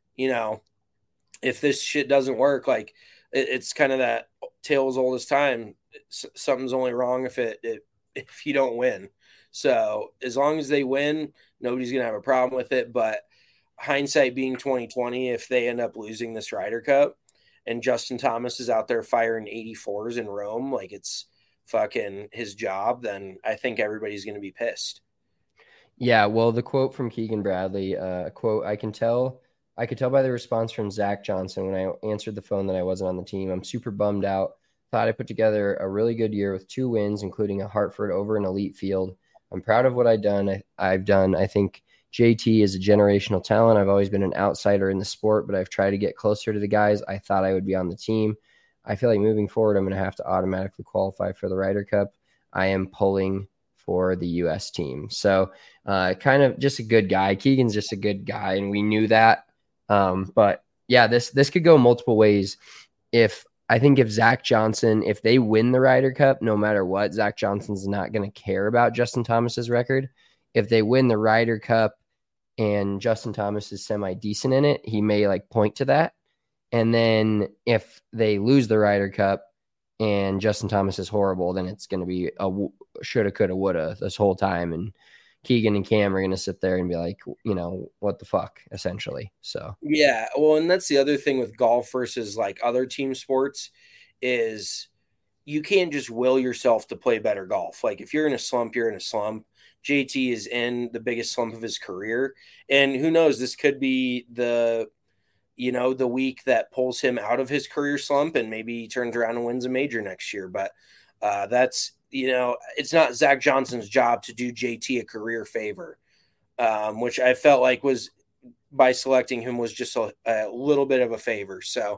if this shit doesn't work, like it's kind of that tale as old as time. Something's only wrong if you don't win. So as long as they win, nobody's going to have a problem with it. But hindsight being 2020, if they end up losing this Ryder Cup and Justin Thomas is out there firing 84s in Rome, like it's fucking his job, then I think everybody's going to be pissed. Yeah, well, the quote from Keegan Bradley, quote, I could tell by the response from Zach Johnson when I answered the phone that I wasn't on the team. I'm super bummed out. Thought I put together a really good year with 2 wins, including a Hartford over an elite field. I'm proud of what I've done. I think JT is a generational talent. I've always been an outsider in the sport, but I've tried to get closer to the guys I thought I would be on the team. I feel like moving forward, I'm going to have to automatically qualify for the Ryder Cup. I am pulling for the U.S. team. So kind of just a good guy. Keegan's just a good guy, and we knew that. But yeah, this could go multiple ways. If Zach Johnson, if they win the Ryder Cup, no matter what, Zach Johnson's not going to care about Justin Thomas's record. If they win the Ryder Cup and Justin Thomas is semi-decent in it, he may like point to that. And then if they lose the Ryder Cup and Justin Thomas is horrible, then it's going to be a shoulda, coulda, woulda this whole time. And Keegan and Cam are going to sit there and be like, what the fuck, essentially. So, yeah. Well, and that's the other thing with golf versus like other team sports is you can't just will yourself to play better golf. Like if you're in a slump, you're in a slump. JT is in the biggest slump of his career. And who knows, this could be the week that pulls him out of his career slump and maybe he turns around and wins a major next year. But that's, it's not Zach Johnson's job to do JT a career favor, which I felt like was by selecting him was just a little bit of a favor. So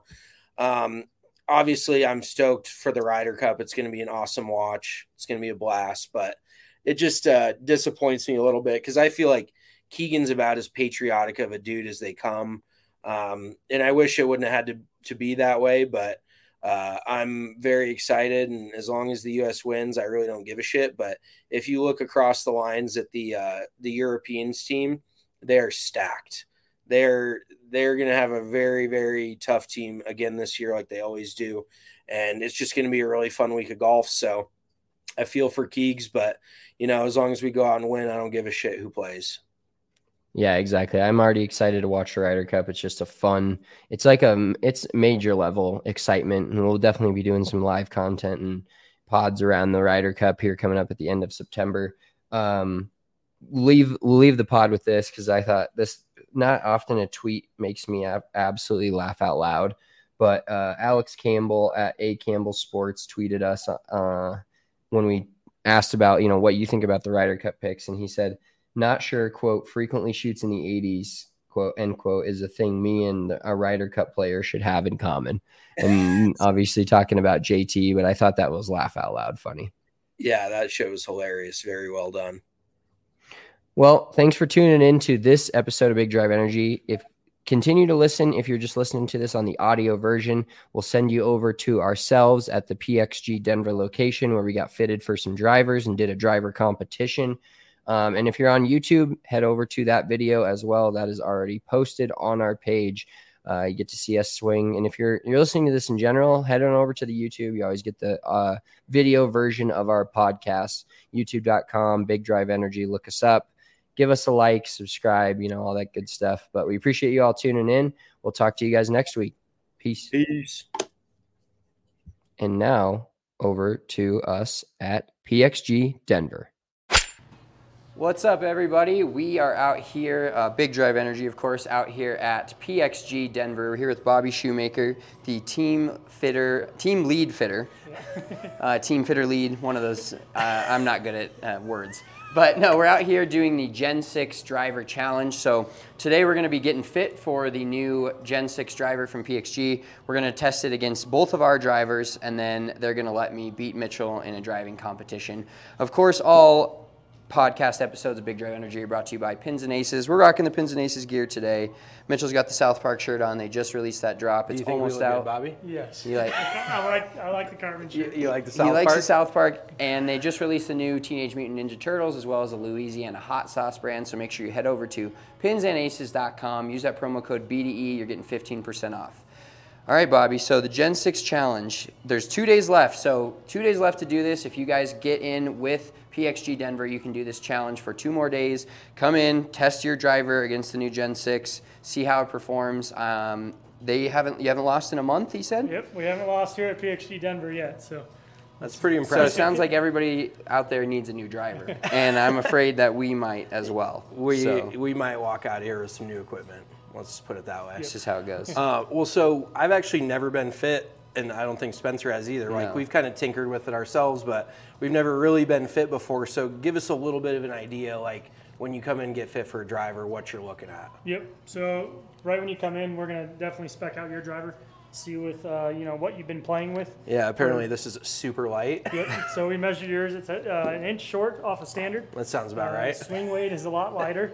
obviously I'm stoked for the Ryder Cup. It's going to be an awesome watch. It's going to be a blast, but it just disappoints me a little bit because I feel like Keegan's about as patriotic of a dude as they come. And I wish it wouldn't have had to be that way, but I'm very excited, and as long as the U.S. wins, I really don't give a shit. But if you look across the lines at the Europeans team, they're stacked. They're going to have a very, very tough team again this year, like they always do, and it's just going to be a really fun week of golf. So I feel for Keegs, but as long as we go out and win, I don't give a shit who plays. Yeah, exactly. I'm already excited to watch the Ryder Cup. It's just it's major level excitement, and we'll definitely be doing some live content and pods around the Ryder Cup here coming up at the end of September. We'll leave the pod with this because I thought this, not often a tweet makes me absolutely laugh out loud, but Alex Campbell at A Campbell Sports tweeted us when we asked about, what you think about the Ryder Cup picks, and he said, "Not sure, quote, frequently shoots in the 80s, quote, end quote, is a thing me and a Ryder Cup player should have in common." And obviously talking about JT, but I thought that was laugh out loud funny. Yeah, that shit was hilarious. Very well done. Well, thanks for tuning in to this episode of Big Drive Energy. Continue to listen. If you're just listening to this on the audio version, we'll send you over to ourselves at the PXG Denver location where we got fitted for some drivers and did a driver competition. And if you're on YouTube, head over to that video as well. That is already posted on our page. You get to see us swing. And if you're listening to this in general, head on over to the YouTube. You always get the video version of our podcast, youtube.com, Big Drive Energy. Look us up. Give us a like, subscribe, all that good stuff. But we appreciate you all tuning in. We'll talk to you guys next week. Peace. And now over to us at PXG Denver. What's up, everybody? We are out here, Big Drive Energy, of course, out here at PXG Denver. We're here with Bobby Shoemaker, the team lead fitter, team fitter lead, one of those. I'm not good at words. But no, we're out here doing the Gen 6 Driver Challenge. So today we're going to be getting fit for the new Gen 6 driver from PXG. We're going to test it against both of our drivers, and then they're going to let me beat Mitchell in a driving competition. Of course, all podcast episodes of Big Drive Energy are brought to you by Pins and Aces. We're rocking the Pins and Aces gear today. Mitchell's got the South Park shirt on. They just released that drop. It's almost out. Good, Bobby? Yes. I like the carbon shirt. You like the South Park? He likes the South Park, and they just released the new Teenage Mutant Ninja Turtles as well as the Louisiana Hot Sauce brand. So make sure you head over to pinsandaces.com. Use that promo code BDE. You're getting 15% off. All right, Bobby, so the Gen 6 Challenge, there's 2 days left. So 2 days left to do this. If you guys get in with PXG Denver, you can do this challenge for 2 more days. Come in, test your driver against the new Gen 6, see how it performs. You haven't lost in a month, he said? Yep, we haven't lost here at PXG Denver yet, so. That's pretty impressive. So it sounds like everybody out there needs a new driver, and I'm afraid that we might as well. We might walk out here with some new equipment. Let's put it that way. This is how it goes. So I've actually never been fit, and I don't think Spencer has either. No. We've kind of tinkered with it ourselves, but we've never really been fit before. So give us a little bit of an idea, when you come in and get fit for a driver, what you're looking at. Yep. So right when you come in, we're going to definitely spec out your driver, see with what you've been playing with. Yeah. Apparently this is super light. Yep. So we measured yours. It's an inch short off of standard. That sounds about right. Swing weight is a lot lighter.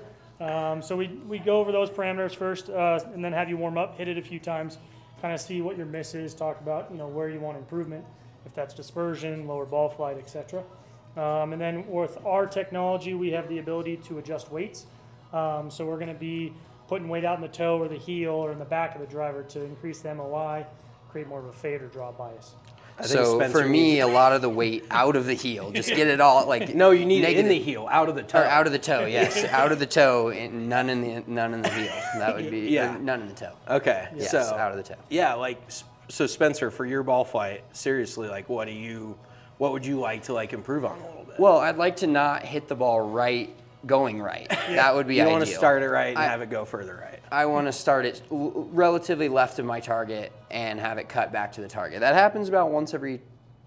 So we go over those parameters first, and then have you warm up, hit it a few times, kind of see what your miss is, talk about where you want improvement, if that's dispersion, lower ball flight, etc. And then with our technology, we have the ability to adjust weights. So we're going to be putting weight out in the toe or the heel or in the back of the driver to increase the MOI, create more of a fade or draw bias. So for me, a lot of the weight out of the heel, just get it all No, you need it in the heel, out of the toe. Or out of the toe, yes, out of the toe, and none in the heel. That would be none in the toe. Okay, yes, so out of the toe. Yeah, so Spencer, for your ball flight, seriously, what would you like to improve on a little bit? Well, I'd like to not hit the ball going right. That would be ideal. You want to start it right and have it go further right. I want to start it relatively left of my target and have it cut back to the target. That happens about once every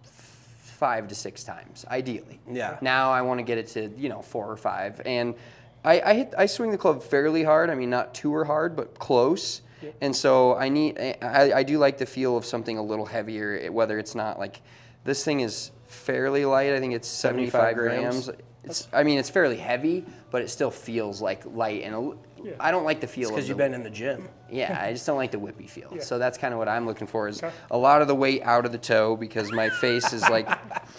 5 to 6 times, ideally. Yeah. Now I want to get it to 4 or 5, and I swing the club fairly hard. I mean, not too hard, but close. Yep. And so I do like the feel of something a little heavier, whether it's not this thing is fairly light. I think it's 75 grams. It's fairly heavy, but it still feels like light. And I don't like the feel. Because you've been in the gym. Yeah, I just don't like the whippy feel. Yeah. So that's kind of what I'm looking for, is a lot of the weight out of the toe, because my face is like,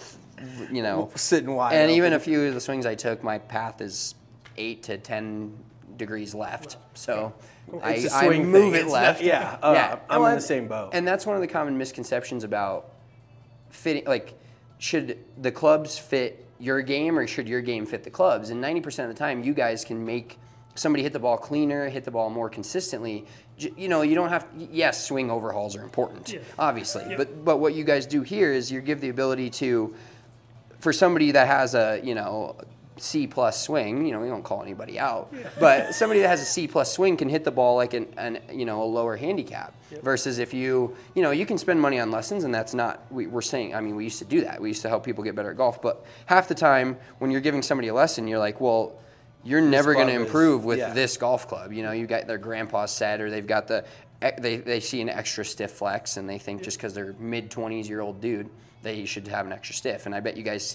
sitting wide. And even a few of the swings I took, my path is 8 to 10 degrees left. So I move it left. I'm in the same boat. And that's one of the common misconceptions about fitting. Like, should the clubs fit your game, or should your game fit the clubs? And 90% of the time, you guys can make somebody hit the ball cleaner, hit the ball more consistently. You don't have. Yes, swing overhauls are important, obviously. Yeah. But what you guys do here is you give the ability to, for somebody that has a C+ swing, we won't call anybody out, but somebody that has a C+ swing can hit the ball like a lower handicap. Versus if you can spend money on lessons, and that's not, we're saying, we used to do that. We used to help people get better at golf, but half the time when you're giving somebody a lesson, you're like, well, you're never going to improve with this golf club. You got their grandpa's set, or they've got they see an extra stiff flex, and they think just because they're mid-20s-year-old dude, they should have an extra stiff. And I bet you guys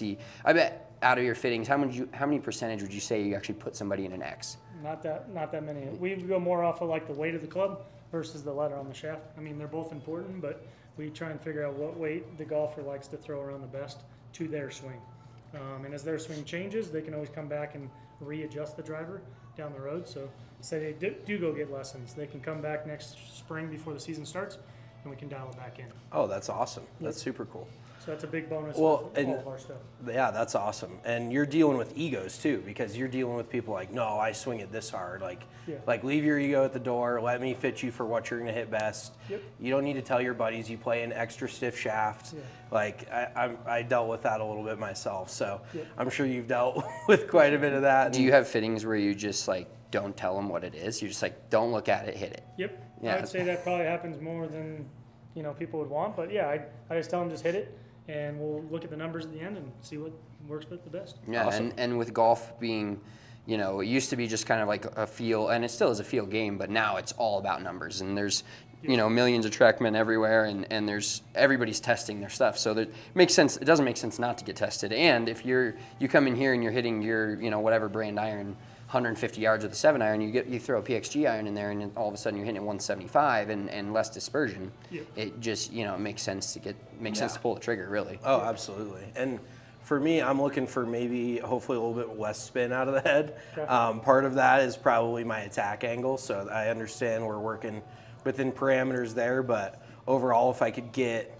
out of your fittings, how many percentage would you say you actually put somebody in an X? Not that many. We go more off of like the weight of the club versus the letter on the shaft. They're both important, but we try and figure out what weight the golfer likes to throw around the best to their swing. And as their swing changes, they can always come back and readjust the driver down the road. So say they do go get lessons, they can come back next spring before the season starts, and we can dial it back in. Oh, that's awesome. That's super cool. So that's a big bonus for all of our stuff. Yeah, that's awesome. And you're dealing with egos too, because you're dealing with people like, no, I swing it this hard. Like leave your ego at the door. Let me fit you for what you're going to hit best. Yep. You don't need to tell your buddies you play an extra stiff shaft. Yeah. I dealt with that a little bit myself. So I'm sure you've dealt with quite a bit of that. Do you have fittings where you just don't tell them what it is? You're just don't look at it, hit it. Yep. Yeah. I would say that probably happens more than people would want. But yeah, I just tell them just hit it. And we'll look at the numbers at the end and see what works the best. Yeah, awesome. and with golf being, it used to be just kind of like a feel, and it still is a feel game, but now it's all about numbers. And there's, millions of TrackMan everywhere, and there's everybody's testing their stuff. So it makes sense. It doesn't make sense not to get tested. And if you come in here and you're hitting your, whatever brand iron, 150 yards with a 7-iron, you throw a PXG iron in there, and all of a sudden you're hitting at 175 and less dispersion. Yep. It just it makes sense to pull the trigger, really. Oh, absolutely. And for me, I'm looking for maybe hopefully a little bit less spin out of the head. Okay. Part of that is probably my attack angle, so I understand we're working within parameters there, but overall, if I could get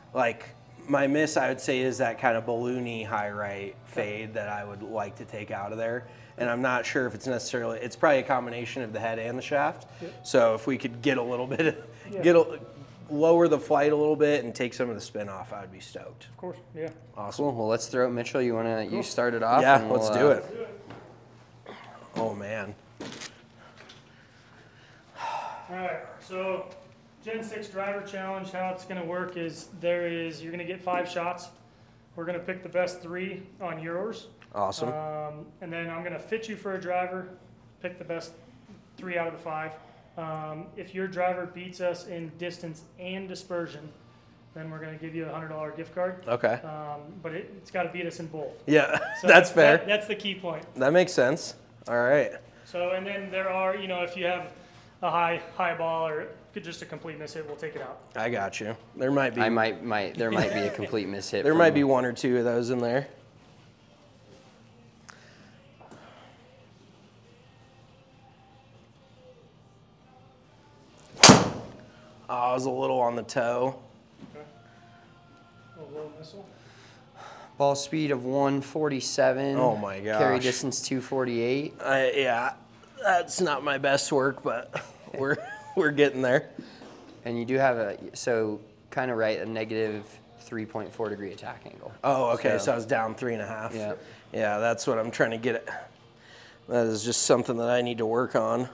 my miss, I would say, is that kind of balloony high right fade that I would like to take out of there. And I'm not sure if it's necessarily, it's probably a combination of the head and the shaft. Yep. So if we could get a little bit, lower the flight a little bit and take some of the spin off, I'd be stoked. Of course, yeah. Awesome. Cool. Well, let's throw it, Mitchell. You start it off? Yeah, let's do it. Oh, man. All right, so Gen 6 driver challenge, how it's going to work is you're going to get 5 shots. We're going to pick the best 3 on yours. Awesome. And then I'm going to fit you for a driver, pick the best 3 out of the 5. If your driver beats us in distance and dispersion, then we're going to give you a $100 gift card. Okay. But it's got to beat us in both. Yeah, so that's fair. That's the key point. That makes sense. All right. So, and then there are, if you have a high ball or just a complete miss hit, we'll take it out. I got you. There might be. There might be a complete miss hit. There might be 1 or 2 of those in there. I was a little on the toe. Okay. A low missile. Ball speed of 147. Oh my gosh. Carry distance 248. Yeah, that's not my best work, but we're getting there. And you do have a negative 3.4 degree attack angle. Oh, okay. So I was down 3.5. Yeah. Yeah, that's what I'm trying to get at. That is just something that I need to work on.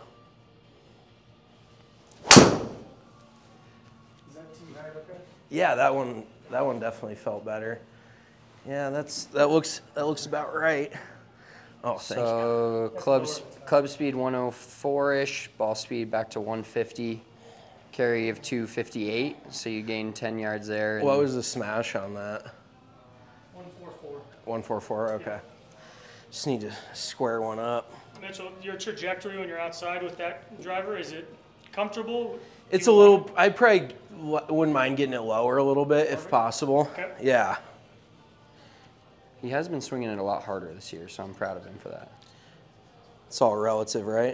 Yeah, that one definitely felt better. Yeah, that looks about right. Oh, thank you. So club speed 104-ish, ball speed back to 150, carry of 258. So you gain 10 yards there. What was the smash on that? 144. 144. Okay. Just need to square one up. Mitchell, your trajectory when you're outside with that driver, is it comfortable? It's a little. I probably wouldn't mind getting it lower a little bit if possible. Okay. Yeah. He has been swinging it a lot harder this year, so I'm proud of him for that. It's all relative, right?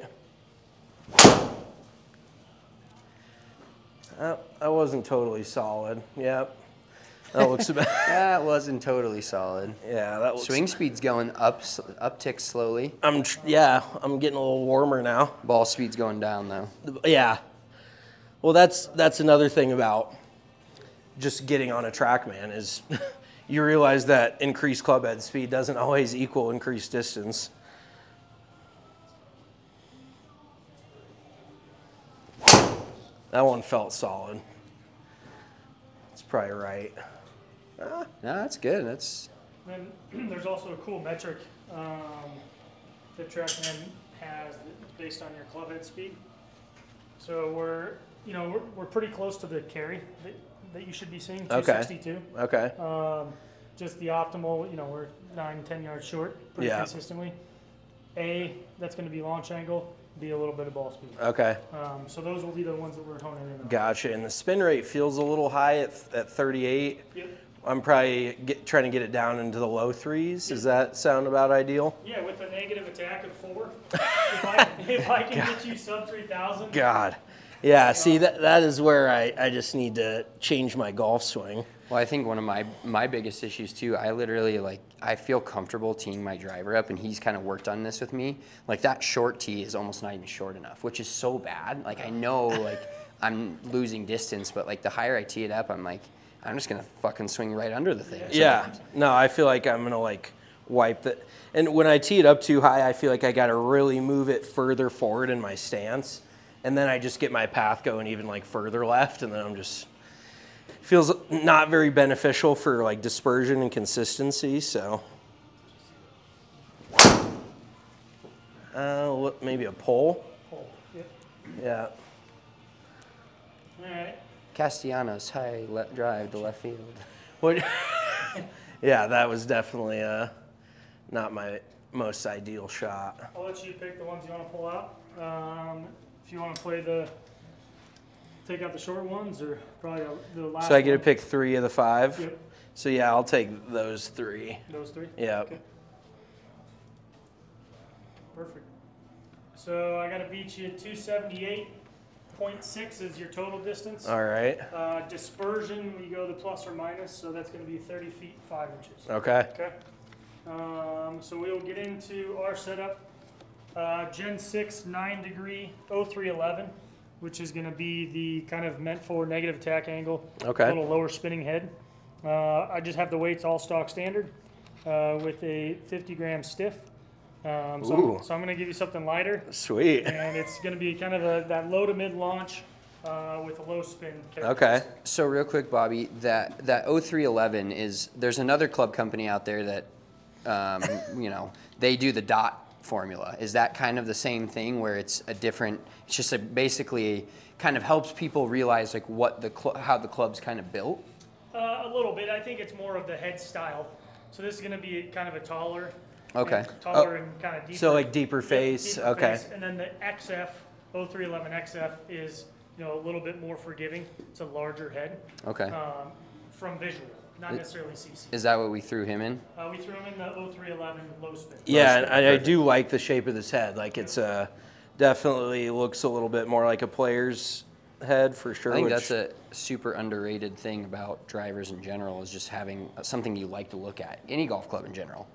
That wasn't totally solid. Yep. That looks about. That wasn't totally solid. Yeah, that looks. Swing speed's going up, uptick slowly. I'm getting a little warmer now. Ball speed's going down though. Yeah. Well, that's another thing about just getting on a TrackMan is you realize that increased club head speed doesn't always equal increased distance. That one felt solid. It's probably right. No, that's good. That's. Then there's also a cool metric that TrackMan has based on your club head speed. So we're pretty close to the carry that you should be seeing, 262. Okay. Just the optimal, we're 9-10 yards short pretty consistently. That's going to be launch angle, be a little bit of ball speed. Okay. So those will be the ones that we're honing in on. Gotcha. And the spin rate feels a little high at 38. Yep. I'm probably trying to get it down into the low threes. Does that sound about ideal? Yeah, with a negative attack of 4, if I can get you sub 3,000. God. Yeah, see, that is where I just need to change my golf swing. Well, I think one of my biggest issues too, I literally I feel comfortable teeing my driver up, and he's kind of worked on this with me. Like that short tee is almost not even short enough, which is so bad. Like I know I'm losing distance, but the higher I tee it up, I'm just gonna fucking swing right under the thing. Yeah. No, I feel like I'm gonna wipe that. And when I tee it up too high, I feel like I gotta really move it further forward in my stance. And then I just get my path going even further left, and then I'm just feels not very beneficial for dispersion and consistency. So, maybe a pull. Yep. Yeah. All right. Castellanos high drive to left field. What? Yeah, that was definitely not my most ideal shot. I'll let you pick the ones you want to pull out. If you want to take out the short ones, or probably the last. So I get to pick 3 of the 5. Yep. So yeah, I'll take those 3. Those 3. Yeah. Okay. Perfect. So I got to beat you at 278.6 is your total distance. All right. Dispersion, we go the plus or minus, so that's going to be 30 feet 5 inches. Okay. Okay. So we'll get into our setup. Gen 6 9-degree 0311, which is going to be the kind of meant for negative attack angle. Okay. A little lower spinning head. I just have the weights all stock standard with a 50-gram stiff. So I'm going to give you something lighter. Sweet. And it's going to be kind of that low to mid launch with a low spin. Okay. So real quick, Bobby, that 0311 there's another club company out there that, they do the dot formula. Is that kind of the same thing where it's just basically kind of helps people realize how the club's kind of built? A little bit. I think it's more of the head style. So this is going to be kind of a taller. Okay. And kind of deeper. So deeper face. Deeper okay. Face. And then the XF 0311 XF is a little bit more forgiving. It's a larger head. Okay. From visual. Not necessarily CC. Is that what we threw him in? We threw him in the 0311 low spin. Yeah, and I do like the shape of this head. It's definitely looks a little bit more like a player's head for sure. I think that's a super underrated thing about drivers in general is just having something you like to look at. Any golf club in general.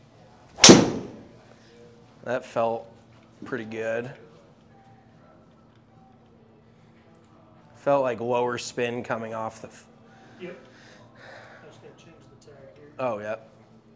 That felt pretty good. Felt like lower spin coming off the. Yep. I just got to change the tag here. Oh, yep.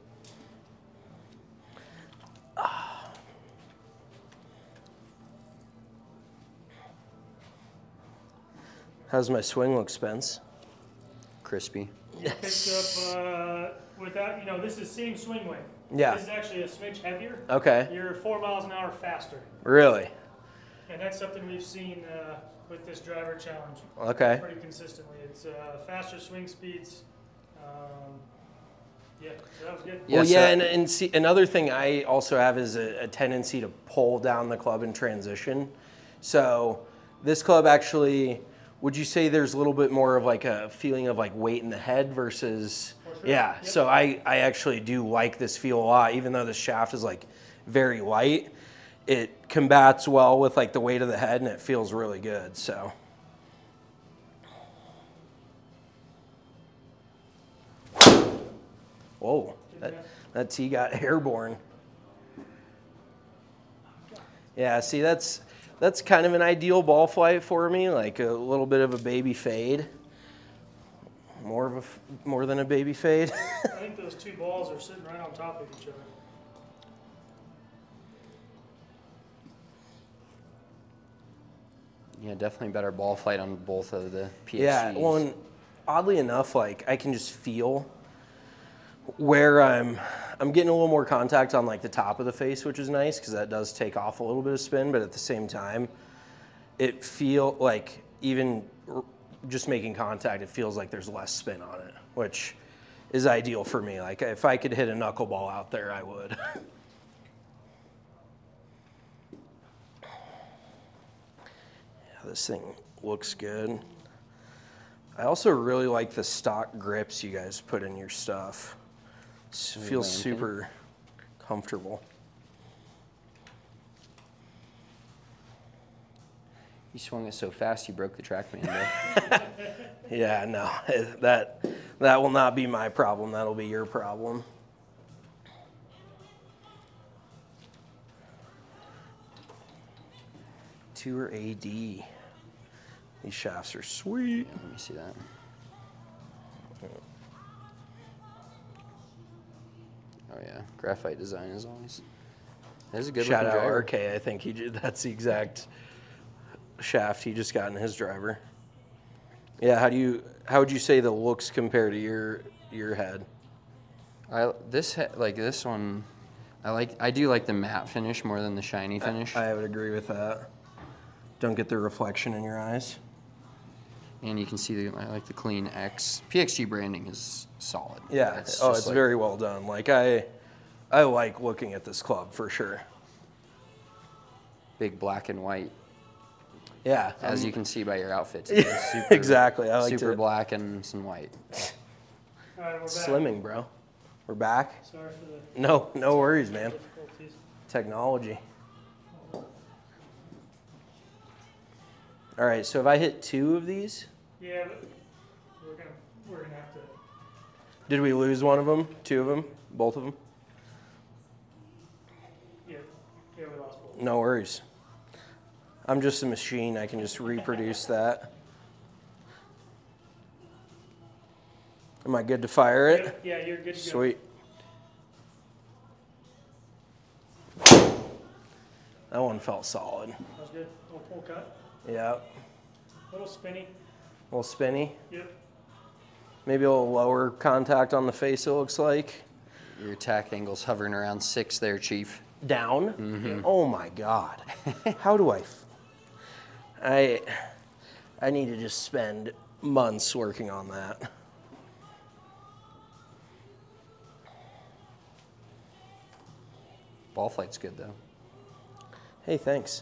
How's my swing look, Spence? Crispy. Picked up without, this is same swing weight. Yeah. This is actually a smidge heavier. Okay. You're 4 miles an hour faster. Really? And that's something we've seen with this driver challenge. Okay. Pretty consistently. It's faster swing speeds. Yeah, so that was good. Well, Yeah, and see, another thing I also have is a tendency to pull down the club in transition. So this club actually, would you say there's a little bit more of like a feeling of like weight in the head versus, sure. yeah. Yep. So I actually do like this feel a lot, even though the shaft is like very light. It combats well with like the weight of the head, and it feels really good. So. Whoa, that tee got airborne. Yeah, see, that's kind of an ideal ball flight for me, like a little bit of a baby fade. More than a baby fade. I think those two balls are sitting right on top of each other. Yeah, definitely better ball flight on both of the PXGs. Yeah, well, and oddly enough, like I can just feel where I'm getting a little more contact on like the top of the face, which is nice because that does take off a little bit of spin, but at the same time, it feel like even just making contact, it feels like there's less spin on it, which is ideal for me. Like if I could hit a knuckleball out there, I would. Yeah, this thing looks good. I also really like the stock grips you guys put in your stuff. It feels super comfortable. You swung it so fast you broke the TrackMan, though. Yeah, no, that will not be my problem. That'll be your problem. Tour AD. These shafts are sweet. Yeah, let me see that. Oh yeah, graphite design is always. There's a good Shout looking out driver. RK. I think that's the exact shaft he just got in his driver. Yeah, how would you say the looks compare to your head? This one, I do like the matte finish more than the shiny finish. I would agree with that. Don't get the reflection in your eyes. And you can see I like the clean X. PXG branding is solid. Yeah. It's very well done. Like I like looking at this club for sure. Big black and white. Yeah. As you can see by your outfit today. Super, exactly. I like super black and some white. All right, we're back. Slimming, bro. We're back. Sorry for the No worries, man. difficulties. Technology. All right, so if I hit 2 of these, Yeah, but we're gonna have to. did we lose one of them? 2 of them? Both of them? Yeah, we lost both. No worries. I'm just a machine. I can just reproduce that. Am I good to fire it? Yeah, you're good to go. Sweet. That one felt solid. That was good. Little pull cut. Yeah. Little spinny. A little spinny. Yep. Maybe a little lower contact on the face, it looks like. Your attack angle's hovering around 6 there, Chief. Down? Mm-hmm. Oh my God. How do I need to just spend months working on that. Ball flight's good, though. Hey, thanks.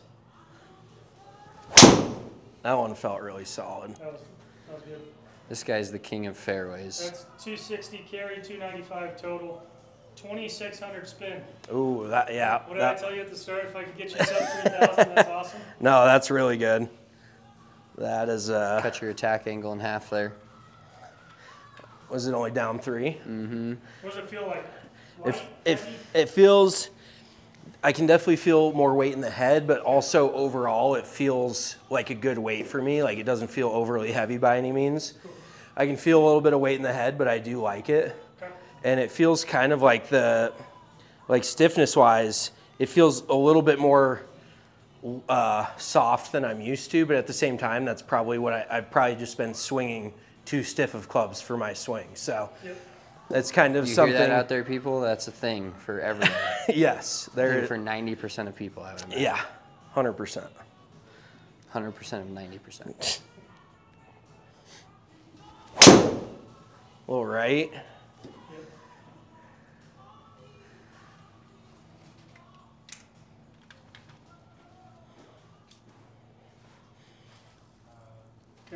That one felt really solid. That was good. This guy's the king of fairways. That's 260 carry, 295 total, 2,600 spin. Ooh, yeah. What did I tell you at the start? If I could get you sub 3,000, that's awesome. No, that's really good. That is. Cut your attack angle in half there. Was it only down 3? Mm-hmm. What does it feel like? If it feels, I can definitely feel more weight in the head, but also overall it feels like a good weight for me. Like it doesn't feel overly heavy by any means. I can feel a little bit of weight in the head, but I do like it. Okay. And it feels kind of like stiffness wise, it feels a little bit more soft than I'm used to, but at the same time, that's probably what I've probably just been swinging too stiff of clubs for my swing. So. Yep. That's kind of something. You hear that out there, people? That's a thing for everyone. Yes. For 90% of people, I would imagine. Yeah, 100%. 100% of 90%. All right.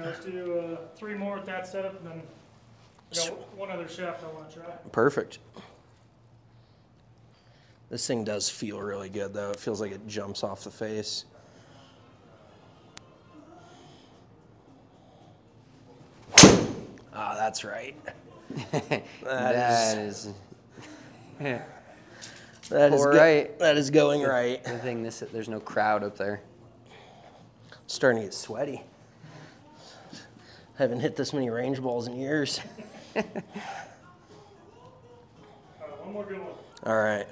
Now let's do 3 more with that setup, and then I got one other shaft I want to try. Perfect. This thing does feel really good, though. It feels like it jumps off the face. Ah, that's right. That is right. That is going right. The thing, there's no crowd up there. Starting to get sweaty. Haven't hit this many range balls in years. One more good one. All right.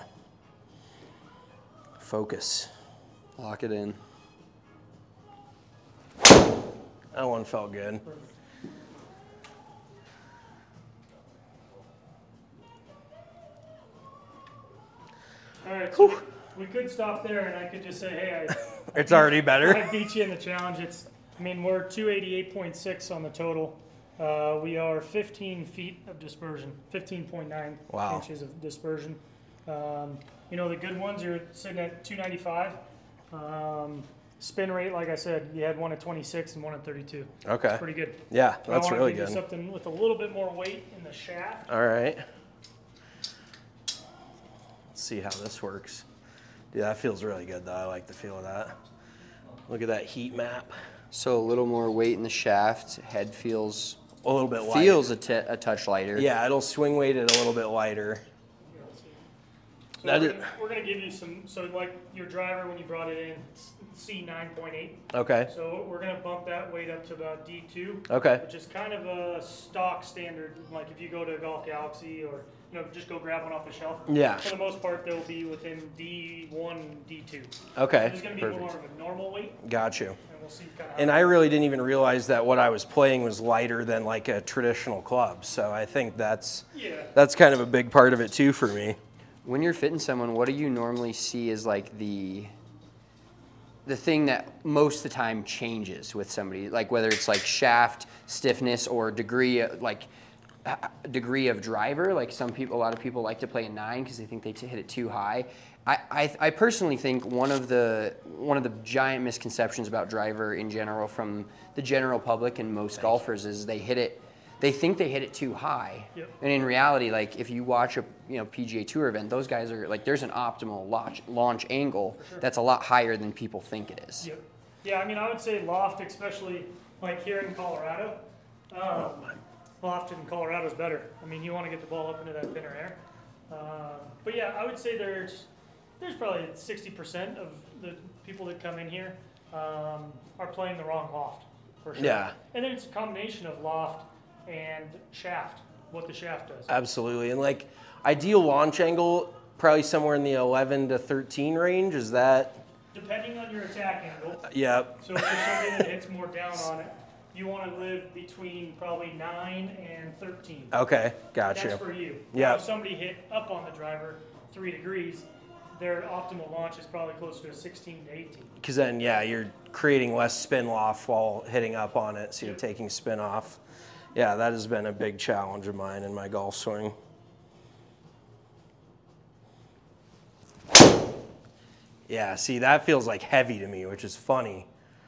Focus. Lock it in. That one felt good. All right, so we could stop there, and I could just say, hey, It's already better. I beat you in the challenge. We're 288.6 on the total. We are 15 feet of dispersion, 15.9 inches of dispersion. The good ones, you're sitting at 295. Spin rate, like I said, you had one at 26 and one at 32. Okay. That's pretty good. Yeah, that's really good. Something with a little bit more weight in the shaft. All right. Let's see how this works. Dude, that feels really good, though. I like the feel of that. Look at that heat map. So a little more weight in the shaft. Head feels a little bit lighter. Feels a touch lighter. Yeah, it'll swing weight it a little bit lighter. So we're going to give you some, so like your driver when you brought it in, C9.8. Okay. So we're going to bump that weight up to about D2. Okay. Which is kind of a stock standard, like if you go to Golf Galaxy or just go grab one off the shelf. Yeah. For the most part, they'll be within D1, D2. Okay. So it's going to be more of a normal weight. Got you. And we'll see kind of. And I really didn't even realize that what I was playing was lighter than like a traditional club. So I think that's kind of a big part of it too for me. When you're fitting someone, what do you normally see as like the thing that most of the time changes with somebody? Like whether it's like shaft stiffness or degree of driver. Like a lot of people like to play a 9 because they think they hit it too high. I personally think one of the giant misconceptions about driver in general from the general public and most golfers is they think they hit it too high. Yep. And in reality, like if you watch a PGA Tour event, those guys are like, there's an optimal launch angle that's a lot higher than people think it is. Yep. Yeah, I would say loft, especially like here in Colorado. Loft in Colorado is better. You want to get the ball up into that thinner air. But yeah, I would say there's probably 60% of the people that come in here are playing the wrong loft, for sure. Yeah. And then it's a combination of loft and shaft, what the shaft does. Absolutely. And like ideal launch angle, probably somewhere in the 11 to 13 range. Is that? Depending on your attack angle. Yep. So if you're somebody that hits more down on it, you want to live between probably 9 and 13. Okay, gotcha. That's for you. Yeah. If somebody hit up on the driver 3 degrees, their optimal launch is probably closer to 16 to 18. Because then, you're creating less spin loft while hitting up on it, so you're taking spin off. Yeah, that has been a big challenge of mine in my golf swing. Yeah, see, that feels like heavy to me, which is funny.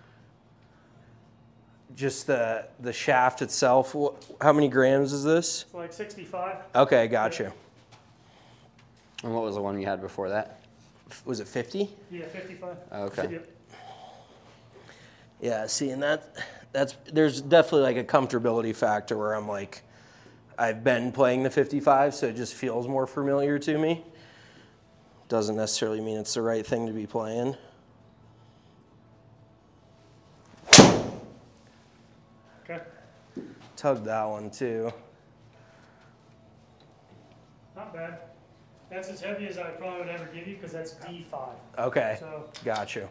Just the shaft itself, how many grams is this? It's like 65. Okay, gotcha. And what was the one you had before that? Was it 50? Yeah, 55. Okay. Yep. Yeah, see, and there's definitely like a comfortability factor where I'm like, I've been playing the 55, so it just feels more familiar to me. Doesn't necessarily mean it's the right thing to be playing. Okay. Tugged that one too. Not bad. That's as heavy as I probably would ever give you because that's D5. Okay, So gotcha.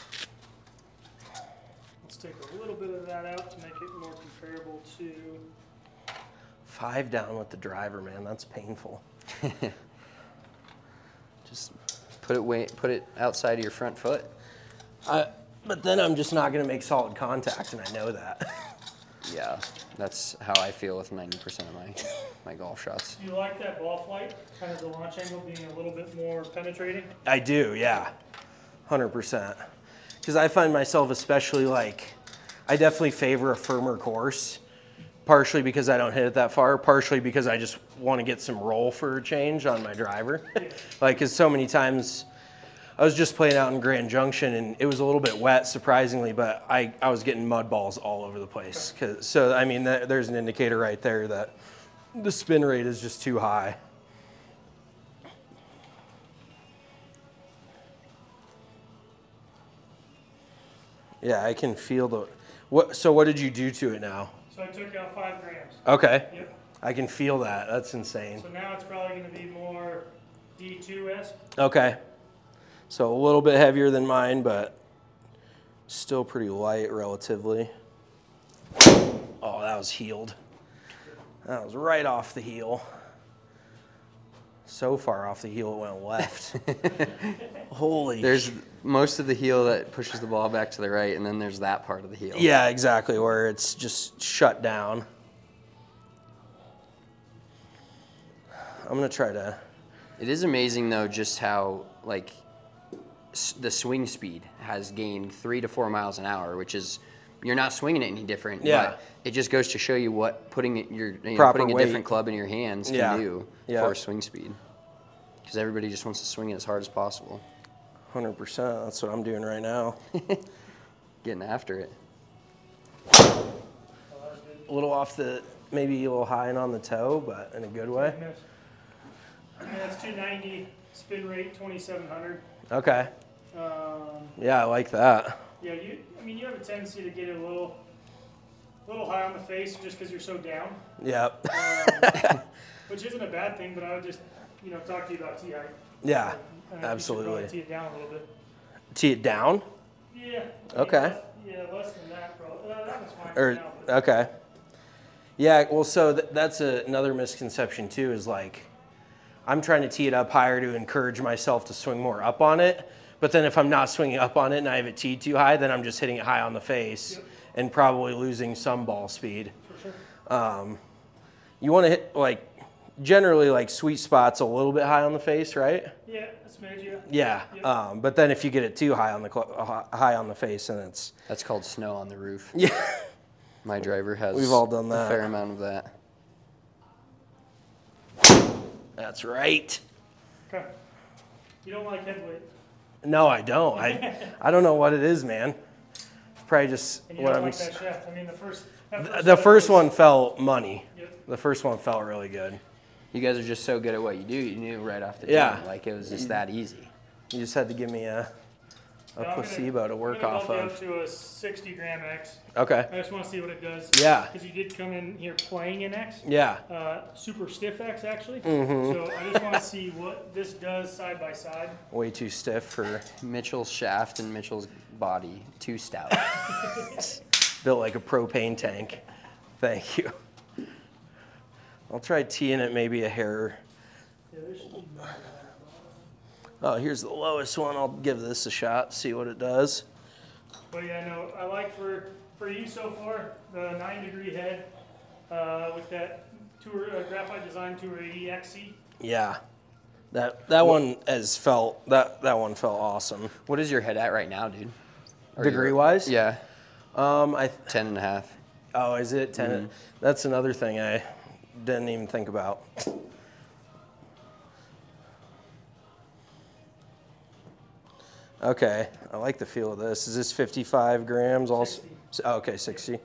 let's take a little bit of that out to make it more comparable to. 5 down with the driver, man. That's painful. Just put it outside of your front foot. But then I'm just not going to make solid contact, and I know that. Yeah, that's how I feel with 90% of my golf shots. Do you like that ball flight? Kind of the launch angle being a little bit more penetrating? I do, yeah. 100%. Because I find myself especially like, I definitely favor a firmer course, partially because I don't hit it that far, partially because I just want to get some roll for a change on my driver. Like, because so many times I was just playing out in Grand Junction and it was a little bit wet, surprisingly, but I was getting mud balls all over the place. So, I mean, there's an indicator right there that the spin rate is just too high. Yeah, I can feel the. So what did you do to it now? So I took out 5 grams. Okay. Yep. I can feel that. That's insane. So now it's probably going to be more D2-esque. Okay. So a little bit heavier than mine, but still pretty light relatively. Oh, that was heeled. That was right off the heel. So far off the heel it went left. Holy. There's most of the heel that pushes the ball back to the right, and then there's that part of the heel. Yeah, exactly, where it's just shut down. I'm going to try to... It is amazing, though, just how, like, the swing speed has gained 3 to 4 miles an hour, which is... You're not swinging it any different. Yeah. But it just goes to show you what putting a different club in your hands can do for swing speed. Because everybody just wants to swing it as hard as possible. 100%. That's what I'm doing right now. Getting after it. A little off the, maybe a little high and on the toe, but in a good way. Yeah, that's 290, spin rate 2,700. Okay. Yeah, I like that. Yeah, you have a tendency to get it a little high on the face just because you're so down. Yep. Which isn't a bad thing, but I would just, talk to you about tee height. Yeah, absolutely. absolutely. Tee it down a little bit. Tee it down? Yeah. Okay. Less than that, probably. That was fine. Or, now, but. Okay. Yeah, well, so that's another misconception, too, is like, I'm trying to tee it up higher to encourage myself to swing more up on it. But then if I'm not swinging up on it and I have it teed too high, then I'm just hitting it high on the face and probably losing some ball speed. For sure. You want to hit, like, generally, like, sweet spots a little bit high on the face, right? Yeah, that's major. Yeah. Yep. But then if you get it too high on the face, then it's... That's called snow on the roof. Yeah. My driver has We've all done that. A fair amount of that. That's right. Okay. You don't like head weight? No, I don't. I don't know what it is, man. It's probably just and you what don't I'm. Like that shaft. I mean, the first one felt money. Yep. The first one felt really good. You guys are just so good at what you do. You knew right off the jump. Like, it was just that easy. You just had to give me a placebo to work off of. I'm going to go up to a 60 gram X. Okay. I just want to see what it does. Yeah. Because you did come in here playing an X. Yeah. Super stiff X, actually. Mm-hmm. So I just want to see what this does side by side. Way too stiff for... Mitchell's shaft and Mitchell's body, too stout. Built like a propane tank. Thank you. I'll try teeing it maybe a hair. Yeah, there should be more. Oh, here's the lowest one. I'll give this a shot, see what it does. But yeah, no, I like for you so far, the 9-degree head with that Graphite Design Tour 80 XC. Yeah. That one has felt, that one felt awesome. What is your head at right now, dude? Degree-wise? Yeah. 10.5. Oh, is it 10? Mm-hmm. That's another thing I didn't even think about. Okay, I like the feel of this. Is this 55 grams also? 60. Oh, okay, 60.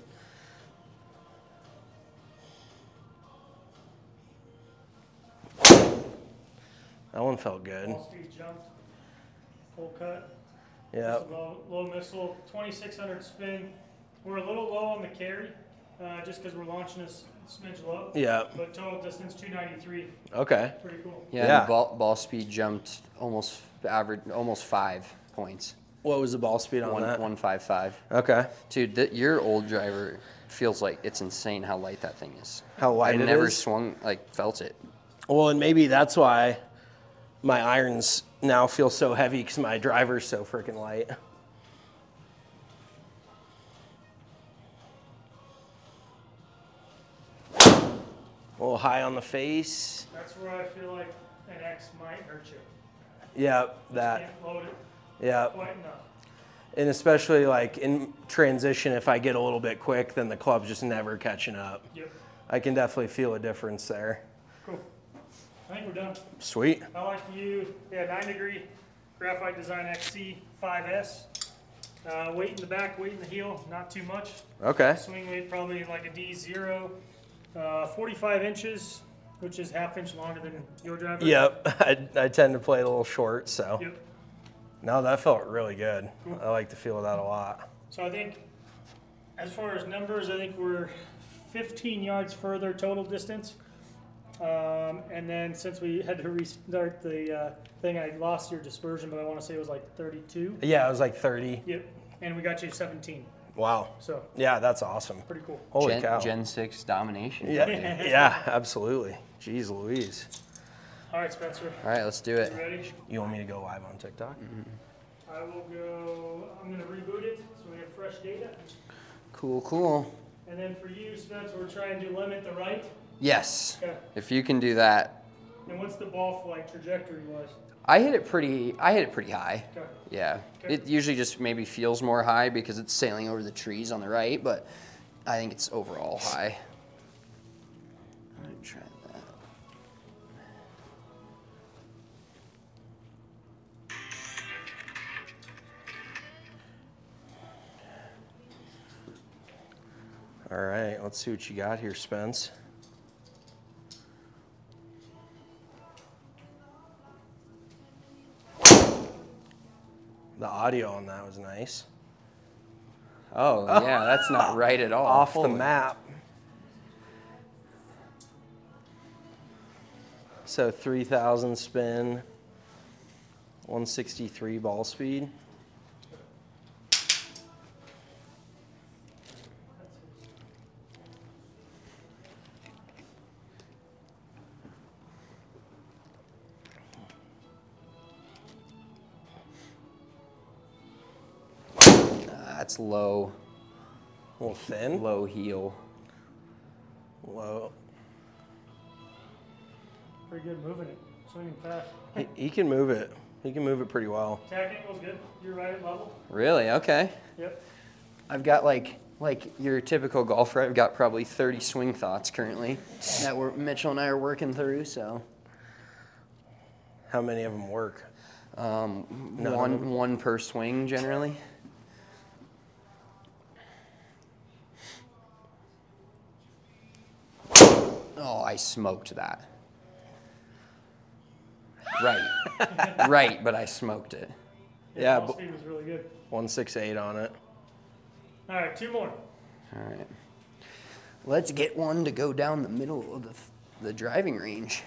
That one felt good. Ball speed jumped. Full cut. Yeah. Low missile, 2,600 spin. We're a little low on the carry, just because we're launching this smidge low. Yeah. But total distance 293. Okay. Pretty cool. Yeah. The ball speed jumped almost 5 points. What was the ball speed on that? 155. Okay. Dude, your old driver feels like it's insane how light that thing is. How light it is? I never felt it. Well, and maybe that's why my irons now feel so heavy, because my driver's so freaking light. A little high on the face. That's where I feel like an X might hurt you. Yeah, Can't load it Yeah. quite enough. And especially like in transition, if I get a little bit quick, then the club's just never catching up. Yep. I can definitely feel a difference there. Cool. I think we're done. Sweet. I like to use 9-degree Graphite Design XC 5S. Weight in the back, weight in the heel, not too much. Okay. Swing weight probably like a D0. 45 inches, which is half inch longer than your driver. Yep. I tend to play a little short, so. Yep. No, that felt really good. Cool. I like the feel of that a lot. So I think as far as numbers, I think we're 15 yards further total distance. And then since we had to restart the thing, I lost your dispersion, but I want to say it was like 32. Yeah, it was like 30. Yep. And we got you 17. Wow. So yeah, that's awesome. pretty cool. Holy cow. Gen 6 domination. Yeah, yeah, absolutely. Jeez Louise. All right, Spencer. All right, let's do it. You ready? You want me to go live on TikTok? I will go. I'm going to reboot it so we have fresh data. Cool, cool. And then for you, Spencer, we're trying to limit the right. Yes. Okay. If you can do that. And what's the ball flight trajectory wise? I hit it pretty high. Okay. Yeah. Okay. It usually just maybe feels more high because it's sailing over the trees on the right, but I think it's overall high. I'm going to try that. All right, let's see what you got here, Spence. The audio on that was nice. Oh, yeah, that's not right at all. Off the Holy- map. So 3,000 spin, 163 ball speed. That's low. A little thin. Low heel. Low. Pretty good moving it. Swinging fast. He can move it. He can move it pretty well. Tack angle's good. You're right at level. Really? Okay. Yep. I've got like your typical golfer. I've got probably 30 swing thoughts currently that Mitchell and I are working through. So How many of them work? one per swing generally. Oh, I smoked that. Right. Right, but I smoked it. Yeah, Ball speed was really good. 168 on it. All right, two more. All right. Let's get one to go down the middle of the driving range.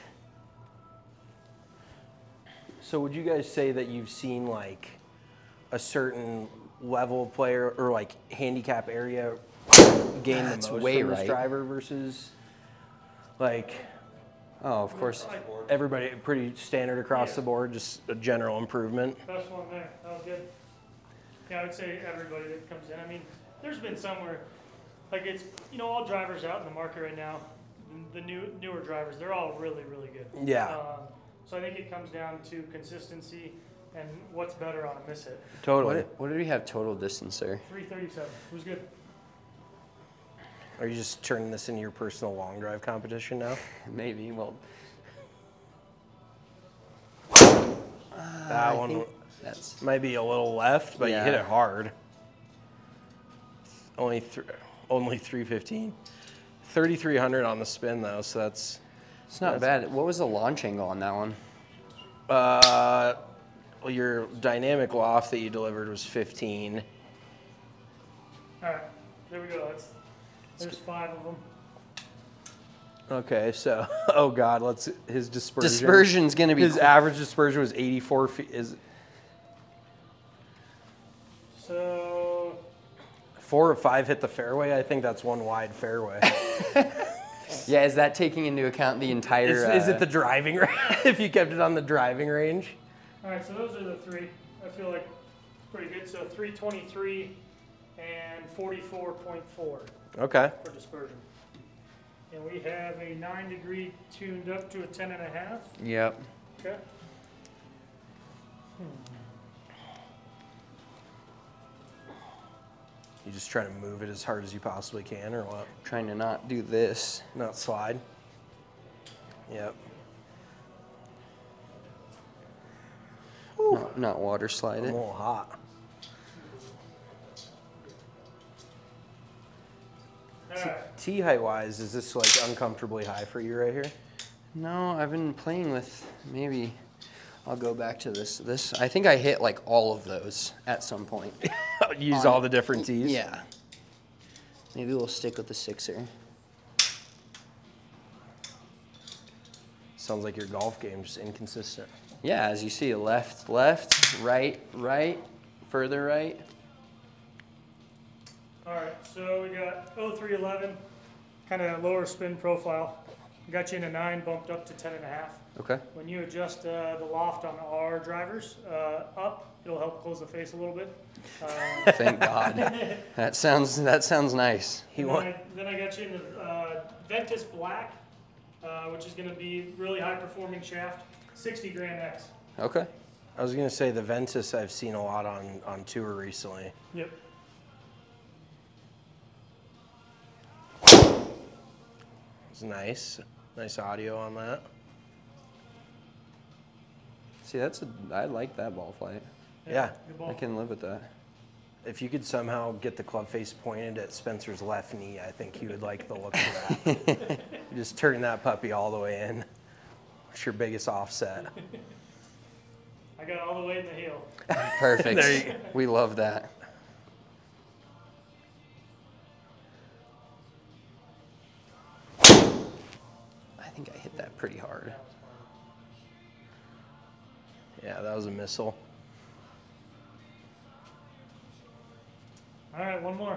So would you guys say that you've seen like a certain level of player or like handicap area gain the That's most way from this right. driver versus like Oh, of course. everybody pretty standard across the board, just a general improvement? Best one there. That was good. Yeah, I would say everybody that comes in. I mean, there's been somewhere, like it's, all drivers out in the market right now, the newer drivers, they're all really, really good. Yeah. So I think it comes down to consistency and what's better on a miss hit. Totally. What did we have total distance there? 337. It was good. Are you just turning this into your personal long drive competition now? Maybe. Well, That one might be a little left, but you hit it hard. Only 315. 3,300 on the spin though, so that's not bad. What was the launch angle on that one? well, your dynamic loft that you delivered was 15. All right, there we go. There's 5 of them. Okay, so oh god, his dispersion. Dispersion's gonna be his average dispersion was 84 feet. So 4 or 5 hit the fairway. I think that's one wide fairway. Yeah, is that taking into account the entire? Is it the driving range? If you kept it on the driving range. all right, so those are the 3. I feel like pretty good. So 323 and 44.4. Okay. For dispersion. And we have a 9-degree tuned up to a 10.5. Yep. Okay. You just trying to move it as hard as you possibly can, or what? Trying to not do this. Not slide. Yep. Not water slide I'm it. a little hot. Tee height wise, is this like uncomfortably high for you right here? No, I've been playing with, maybe I'll go back to this. I think I hit like all of those at some point. Use all the different tees? Yeah. Maybe we'll stick with the 6er. Sounds like your golf game just inconsistent. Yeah, as you see, left, right, further right. All right, so we got 0311, kind of lower spin profile. Got you in a 9, bumped up to 10.5. Okay. When you adjust the loft on our drivers up, it'll help close the face a little bit. Thank God. That sounds nice. Then I got you in the Ventus Black, which is going to be really high performing shaft, 60 Grand X. Okay. I was going to say the Ventus I've seen a lot on tour recently. Yep. It's nice. Nice audio on that. See, I like that ball flight. Yeah. Good ball. I can live with that. If you could somehow get the club face pointed at Spencer's left knee, I think he would like the look of that. You just turn that puppy all the way in. What's your biggest offset? I got all the way in the heel. Perfect. There you go. We love that. I think I hit that pretty hard. Yeah, that was a missile. All right, one more.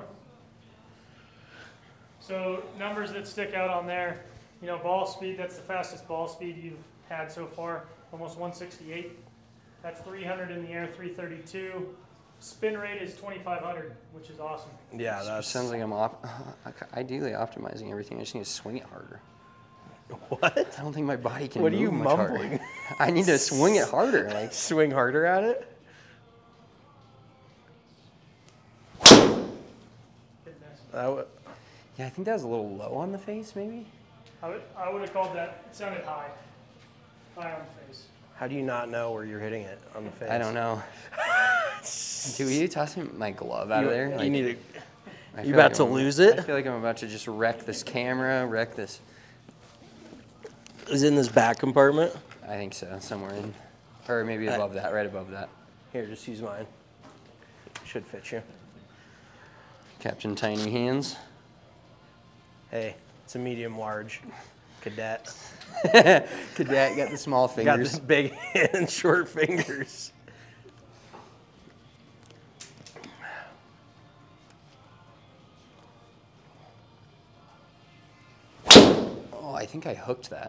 So numbers that stick out on there, ball speed, that's the fastest ball speed you've had so far, almost 168. That's 300 in the air, 332. Spin rate is 2,500, which is awesome. Yeah, that sounds like I'm ideally optimizing everything. I just need to swing it harder. What? I don't think my body can What are move you much mumbling? harder. I need to swing it harder. Like swing harder at it? Yeah, I think that was a little low on the face, maybe. I would have called that, it sounded high on the face. How do you not know where you're hitting it on the face? I don't know. Dude, will you toss my glove out of there? You Like, need I You feel about like to I'm- lose it? I feel like I'm about to just wreck this camera, wreck this. Is it in this back compartment? I think so, somewhere in, or maybe above that, right above that. Here, just use mine. Should fit you. Captain Tiny Hands. Hey, it's a medium large cadet. Cadet got the small Got fingers. this big hand, short fingers. Oh, I think I hooked that.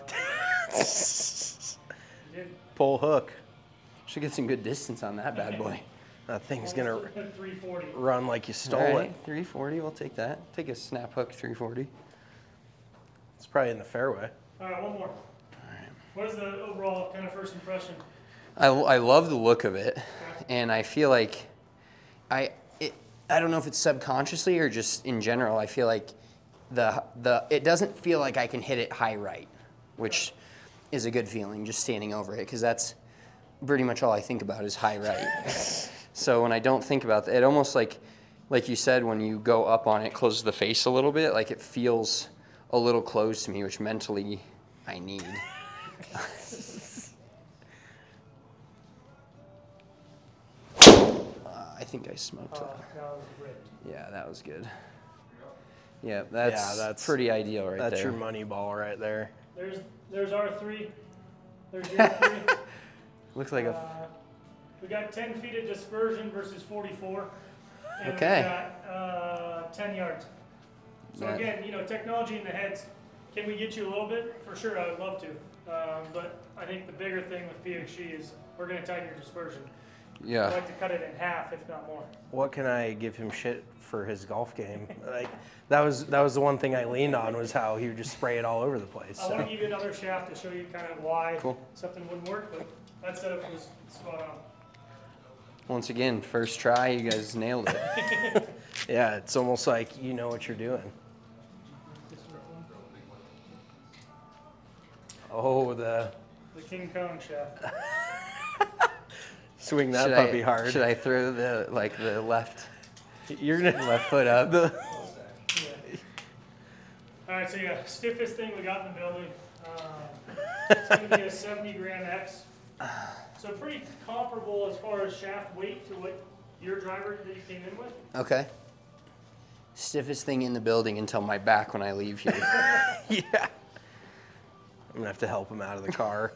Pull hook. Should get some good distance on that bad boy. That thing's gonna 340. run like you stole All it. right, 340, we'll take that. Take a snap hook 340. It's probably in the fairway. All right, one more. What is the overall kind of first impression? I love the look of it, and I feel like I don't know if it's subconsciously or just in general. I feel like it doesn't feel like I can hit it high right, which is a good feeling just standing over it, because that's pretty much all I think about is high right. So when I don't think about that, it almost like you said, when you go up on it, closes the face a little bit, like it feels a little closed to me, which mentally I need. I think I smoked that. That was ripped. Yeah, that was good. Yeah, that's pretty ideal right That's there. your money ball right there. There's our 3. There's your 3. Looks like We got 10 feet of dispersion versus 44. And Okay. we got 10 yards. So That- again, technology in the heads, can we get you a little bit? For sure, I would love to. But I think the bigger thing with PXG is we're going to tighten your dispersion. Yeah. I'd like to cut it in half, if not more. What can I give him shit for his golf game? Like that was the one thing I leaned on, was how he would just spray it all over the place. I want to give you another shaft to show you kind of why Cool. something wouldn't work, but that setup was spot on. Once again, first try, you guys nailed it. Yeah, it's almost like you know what you're doing. Oh, the King Kong shaft. Swing that puppy hard. Should I throw the left? You're gonna left foot up. All right, so yeah, stiffest thing we got in the building. It's going to be a 70 gram X. So pretty comparable as far as shaft weight to what your driver that you came in with. Okay. Stiffest thing in the building until my back when I leave here. Yeah. I'm gonna have to help him out of the car.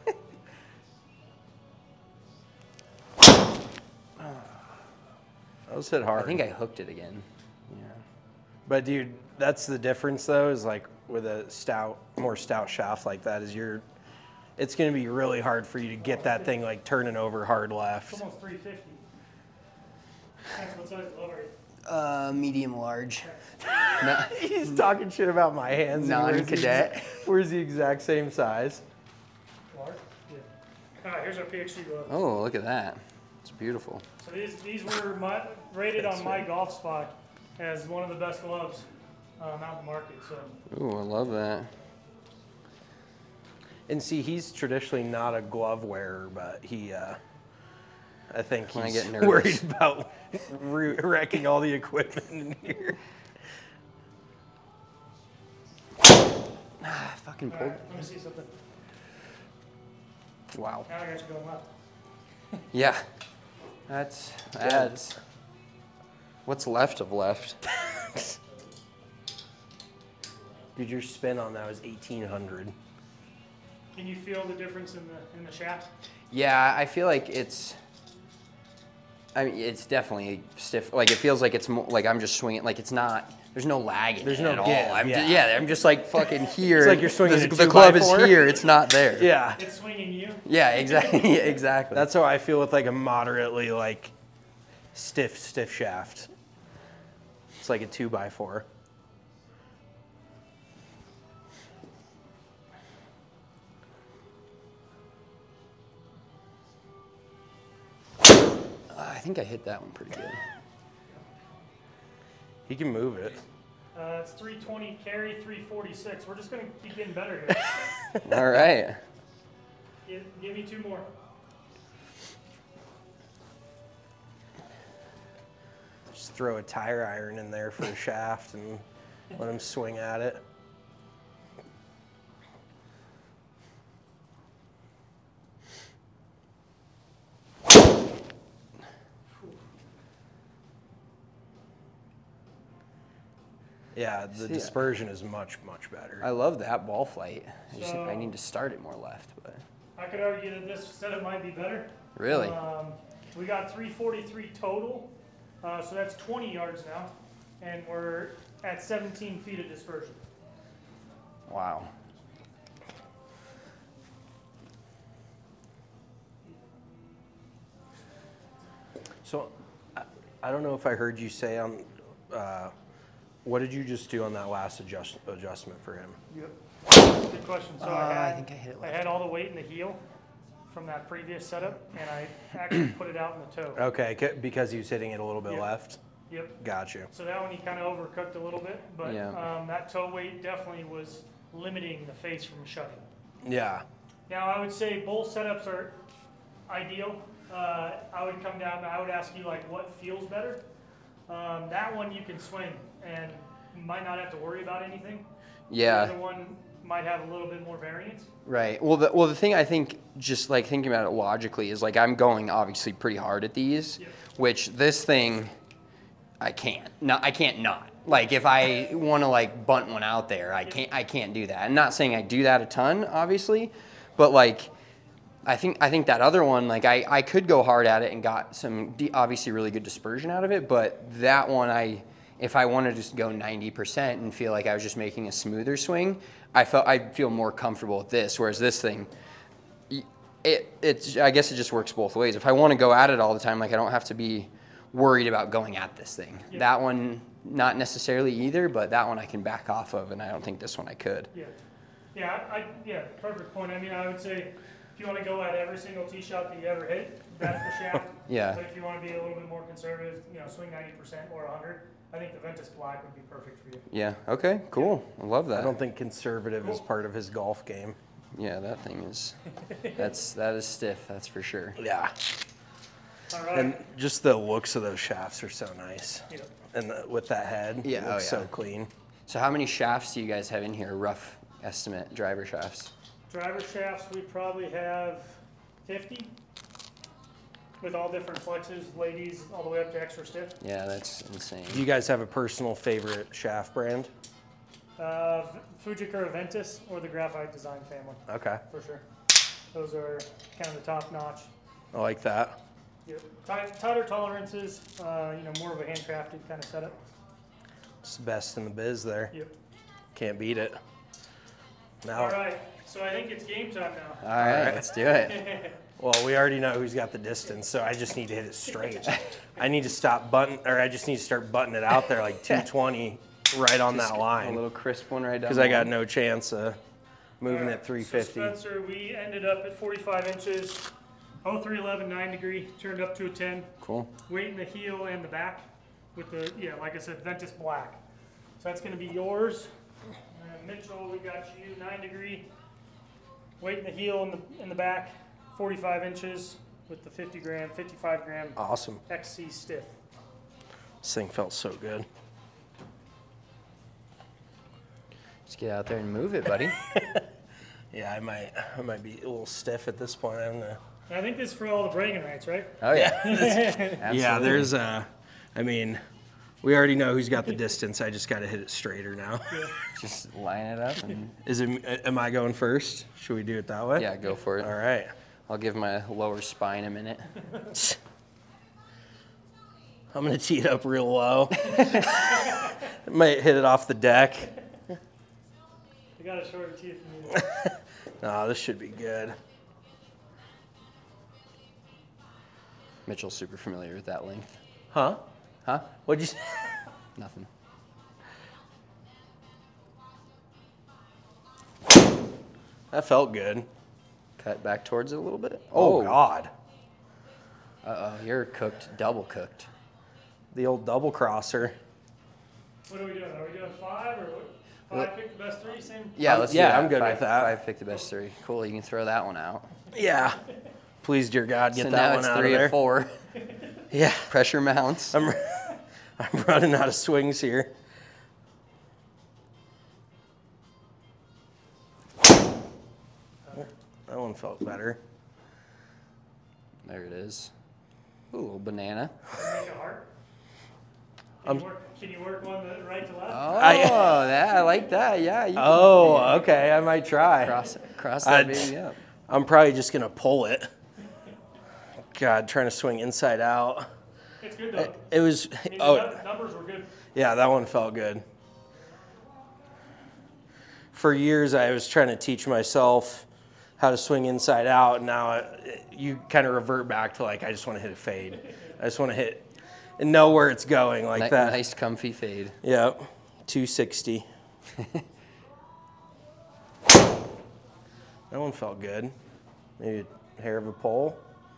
That was hit hard. I think I hooked it again. Yeah. But dude, that's the difference though, is like with a more stout shaft like that, is it's gonna be really hard for you to get that thing like turning over hard left. It's almost 350. That's what size glove are you? Medium large. He's talking shit about my hands. Non-cadet. Where's the exact same size? Large? Yeah. All right, here's our PXG glove. Oh, look at that. It's beautiful. So these were rated on my golf spot as one of the best gloves out in the market. So. Ooh, I love that. And see, he's traditionally not a glove wearer, but he, I think When I he's get nervous. worried about wrecking all the equipment in here. I fucking All pulled. right, let me see something. Wow. Now I got you going left. Yeah. That's. What's left of left? Dude, your spin on that was 1,800. Can you feel the difference in the shaft? Yeah, I feel like it's definitely stiff. Like it feels like it's more, like I'm just swinging. Like it's not. There's no lag in There's it no at give, all. I'm yeah. I'm just like fucking here. It's like you're swinging a the club is 2x4. here. It's not there. Yeah. It's swinging you. Yeah, exactly. Exactly. That's how I feel with like a moderately like stiff shaft. It's like a 2x4. I think I hit that one pretty good. He can move it. It's 320 carry, 346. We're just going to keep getting better here. All right. Give me two more. Just throw a tire iron in there for a shaft and let him swing at it. Yeah, the dispersion is much better. I love that ball flight. So, I need to start it more left, but. I could argue that this setup might be better. Really? We got 343 total, so that's 20 yards now, and we're at 17 feet of dispersion. Wow. So, I don't know if I heard you say on, what did you just do on that last adjustment for him? Yep. Good question. So I think I hit it I left. had all the weight in the heel from that previous setup, and I actually put it out in the toe. Okay, because he was hitting it a little bit Yep. left? Yep. Got you. So that one he kind of overcooked a little bit, but Yeah. that toe weight definitely was limiting the face from shutting. Yeah. Now I would say both setups are ideal. I would come down and I would ask you like what feels better. That one you can swing and you might not have to worry about anything. Yeah. The other one might have a little bit more variance. Right. Well, the thing I think, just like thinking about it logically, is like I'm going obviously pretty hard at these, Yep. which this thing, I can't. No, I can't not. Like if I want to like bunt one out there, I can't do that. I'm not saying I do that a ton, obviously, but like I think that other one, like I could go hard at it and got some obviously really good dispersion out of it, but that one if I wanted to just go 90% and feel like I was just making a smoother swing, I'd feel more comfortable with this. Whereas this thing, I guess it just works both ways. If I want to go at it all the time, like I don't have to be worried about going at this thing. Yeah. That one, not necessarily either, but that one I can back off of, and I don't think this one I could. Yeah. Yeah, perfect point. I mean, I would say if you want to go at every single tee shot that you ever hit, that's the shaft. Yeah. But if you want to be a little bit more conservative, swing 90% or 100, I think the Ventus Black would be perfect for you. Yeah. Okay. Cool. I love that. I don't think conservative is part of his golf game. Yeah, that thing is. that is stiff. That's for sure. Yeah. All right. And just the looks of those shafts are so nice. Yep. And with that head, Yeah, it looks oh, yeah. so clean. So how many shafts do you guys have in here? Rough estimate, driver shafts. Driver shafts, we probably have 50 with all different flexes, ladies, all the way up to extra stiff. Yeah, that's insane. Do you guys have a personal favorite shaft brand? Fujikura Ventus or the Graphite Design family, Okay. for sure. Those are kind of the top notch. I like that. Yep. Tighter tolerances, more of a handcrafted kind of setup. It's the best in the biz there. Yep. Can't beat it. Now, All right, so I think it's game time now. All right, let's do it. well, we already know who's got the distance, so I just need to hit it straight. I need to start buttoning it out there like 220 right on that A line. little crisp one right down. Because I got no chance of moving All at right, 350. So Spencer, we ended up at 45 inches, 0311 9 degree, turned up to a 10. Cool. Weight in the heel and the back with the, like I said, Ventus Black. So that's going to be yours. And Mitchell, we got you 9 degree. Weight in the heel in the back, 45 inches with the 55 gram Awesome. XC stiff. This thing felt so good. Just get out there and move it, buddy. Yeah, I might be a little stiff at this point. And I think this is for all the bragging rights, right? Oh yeah. Yeah, there's we already know who's got the distance. I just got to hit it straighter now. Yeah. Just line it up and. Am I going first? Should we do it that way? Yeah, go for it. All right. I'll give my lower spine a minute. I'm gonna tee it up real low. Might hit it off the deck. I got a shorter teeth than you. No, this should be good. Mitchell's super familiar with that length. Huh? Huh? What'd you say? Nothing. That felt good. Cut back towards it a little bit. Oh God. Uh-oh, you're cooked, double cooked. The old double crosser. What are we doing? Are we doing 5 or what? 5 pick the best 3? Same? Yeah, let's do yeah, that. I'm good with that. 5 pick the best 3. Cool, you can throw that one out. Yeah. Please, dear God, get So that now one it's out 3 of there. of 4. Yeah. Pressure mounts. I'm running out of swings here. That one felt better. There it is. Ooh, a little banana. Make a heart. Can you work one right to left? Oh, I like that. Yeah. You can, Okay. I might try. cross that baby up. I'm probably just going to pull it. God, trying to swing inside out. It's good though. It was, The numbers were good. yeah, that one felt good. For years, I was trying to teach myself how to swing inside out, and now you kind of revert back to like, I just want to hit a fade. I just want to hit and know where it's going like that. Nice, comfy fade. Yep, 260. That one felt good. Maybe a hair of a pole.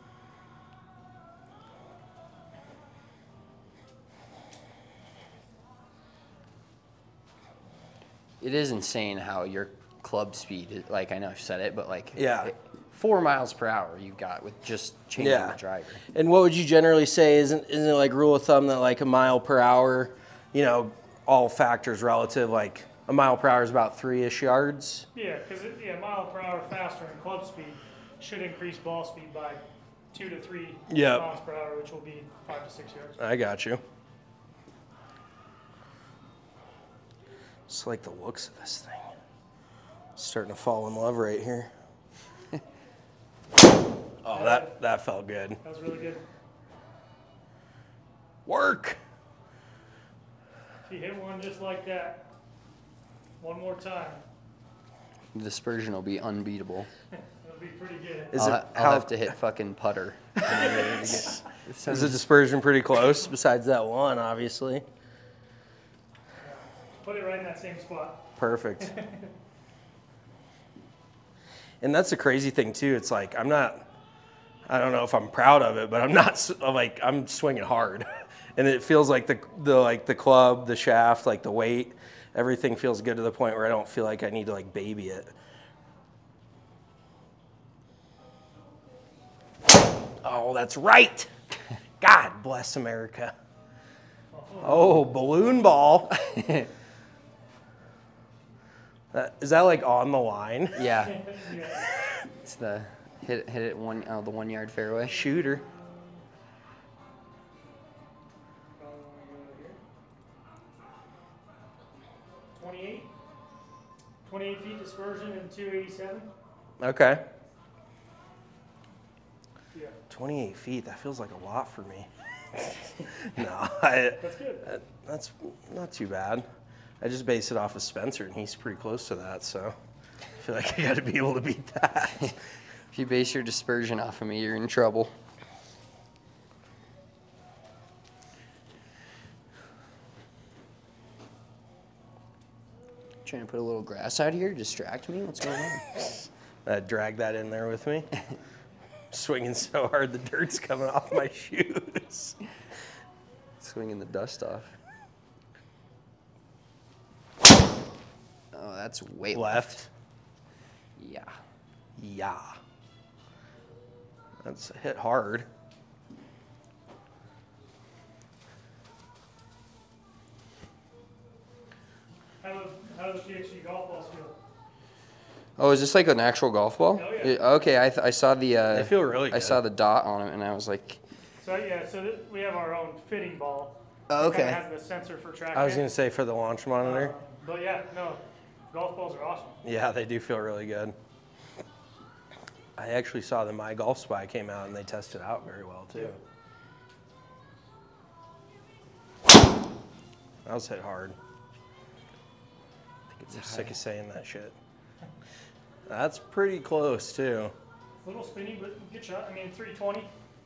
It is insane how your club speed, like I know I've said it, but like Yeah. 4 miles per hour you've got with just changing Yeah. the driver. And what would you generally say? Isn't it like rule of thumb that like a mile per hour, all factors relative, like a mile per hour is about 3-ish yards? Yeah, because mile per hour faster in club speed should increase ball speed by 2 to 3 miles per hour, which will be 5 to 6 yards. I got you. Just like the looks of this thing. Starting to fall in love right here. Oh, that felt good. That was really good. Work. If you hit one just like that, one more time, The dispersion will be unbeatable. it'll be pretty good. I'll have to hit fucking putter. Is the dispersion pretty close besides that one, obviously? Put it right in that same spot. Perfect. And that's the crazy thing too. It's like I don't know if I'm proud of it, but I'm not I'm swinging hard. and it feels like the club, the shaft, like the weight, everything feels good to the point where I don't feel like I need to like baby it. Oh, that's right. God bless America. Oh, balloon ball. Is that like on the line? Yeah. It's the hit it the 1 yard fairway. Shooter. $28. 28 feet dispersion and 287. Okay. Yeah. 28 feet, that feels like a lot for me. No, That's good. that's not too bad. I just base it off of Spencer, and he's pretty close to that, so I feel like I got to be able to beat that. If you base your dispersion off of me, you're in trouble. Trying to put a little grass out here, distract me? What's going on? Drag that in there with me. Swinging so hard the dirt's coming off my shoes. Swinging the dust off. Oh, that's way left. Yeah. Yeah. That's hit hard. How do the PXG golf balls feel? Oh, is this like an actual golf ball? Oh, yeah. Okay, I saw the. They feel really good. I saw the dot on it, and I was like. So yeah, we have our own fitting ball. Oh, okay. It has the sensor for tracking. I was going to say for the launch monitor. But yeah, no, golf balls are awesome. Yeah, they do feel really good. I actually saw the My Golf Spy came out and they tested out very well too. That was hit hard. I'm sick of saying that shit. That's pretty close too. A little spinny, but good shot. I mean, 320.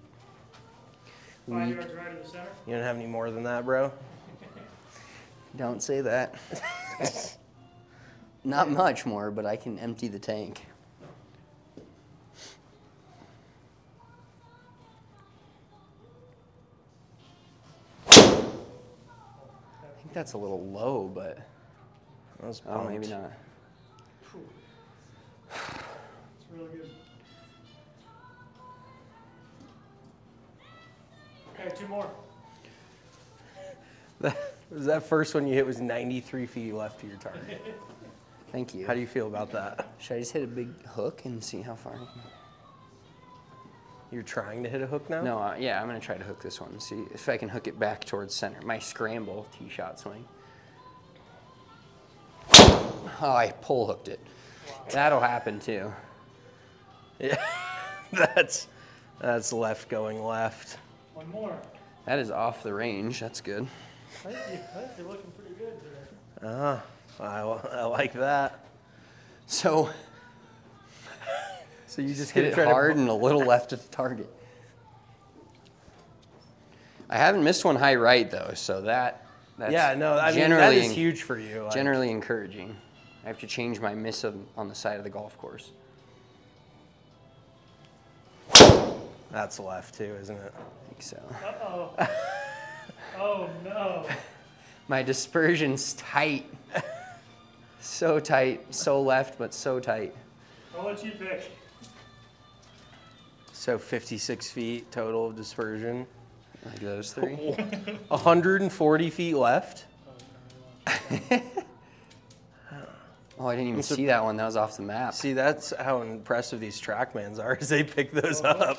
5 yards right of the center. You don't have any more than that, bro? Don't say that. Not much more, but I can empty the tank. I think that's a little low, but That was oh, maybe not. It's really good. Okay, two more. That first one you hit was 93 feet left to your target. Thank you. How do you feel about that? Should I just hit a big hook and see how far I can? You're trying to hit a hook now? No, yeah, I'm going to try to hook this one and see if I can hook it back towards center. My scramble tee shot swing. Oh, I pull hooked it. Wow. That'll happen too. Yeah, that's left going left. One more. That is off the range. That's good. You're looking pretty good today. I like that. So you just hit it hard and a little left of the target. I haven't missed one high right though, so that's yeah, no, I mean that is huge for you. Like, generally encouraging. I have to change my miss on the side of the golf course. That's left too, isn't it? I think so. Uh-oh. Oh, no. My dispersion's tight. So tight. So left, but so tight. I'll let you pick. So 56 feet total of dispersion. Like those three? 140 feet left. Oh, I didn't even see that one. That was off the map. See, that's how impressive these TrackMans are, is they pick those up.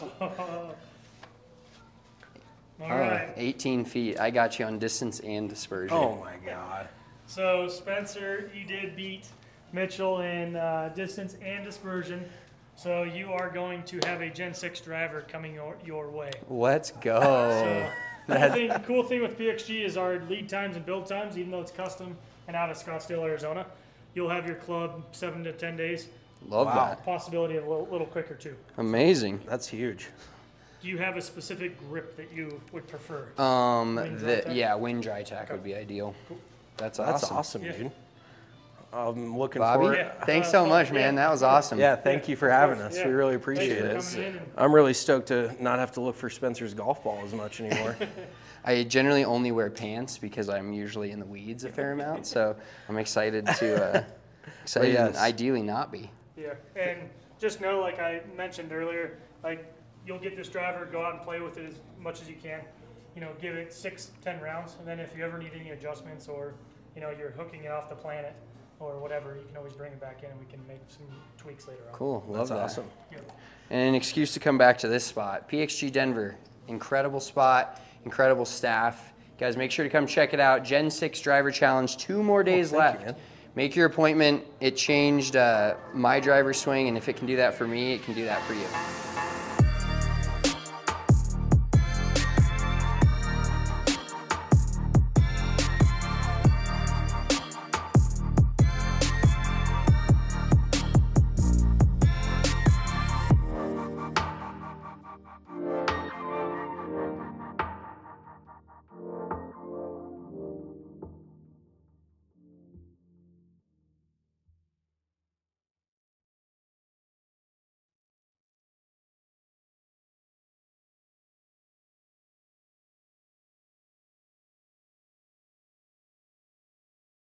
All right. 18 feet. I got you on distance and dispersion. Oh, my God. So, Spencer, you did beat Mitchell in distance and dispersion. So, you are going to have a Gen 6 driver coming your way. Let's go. So, cool thing with PXG is our lead times and build times, even though it's custom and out of Scottsdale, Arizona. You'll have your club 7 to 10 days. Love that. Possibility of a little quicker, too. Amazing. That's huge. Do you have a specific grip that you would prefer? Wind dry tack would be ideal. Cool. That's awesome. That's awesome, yeah. dude. I'm looking Bobby, forward. thanks so much, man. That was awesome. Yeah, thank you for having us. Yeah. We really appreciate Thanks for it. coming in. I'm really stoked to not have to look for Spencer's golf ball as much anymore. I generally only wear pants because I'm usually in the weeds a fair amount, so I'm excited to Yes. ideally not be. Yeah, and just know, like I mentioned earlier, like you'll get this driver, go out and play with it as much as you can. You know, give it 6-10 rounds, and then if you ever need any adjustments or, you know, you're hooking it off the planet or whatever, you can always bring it back in and we can make some tweaks later on. Cool, love that. Awesome. Yeah. And an excuse to come back to this spot. PXG Denver, incredible spot, incredible staff. Guys, make sure to come check it out. Gen 6 Driver Challenge, 2 more days left. man. Make your appointment. It changed my driver swing, and if it can do that for me, it can do that for you.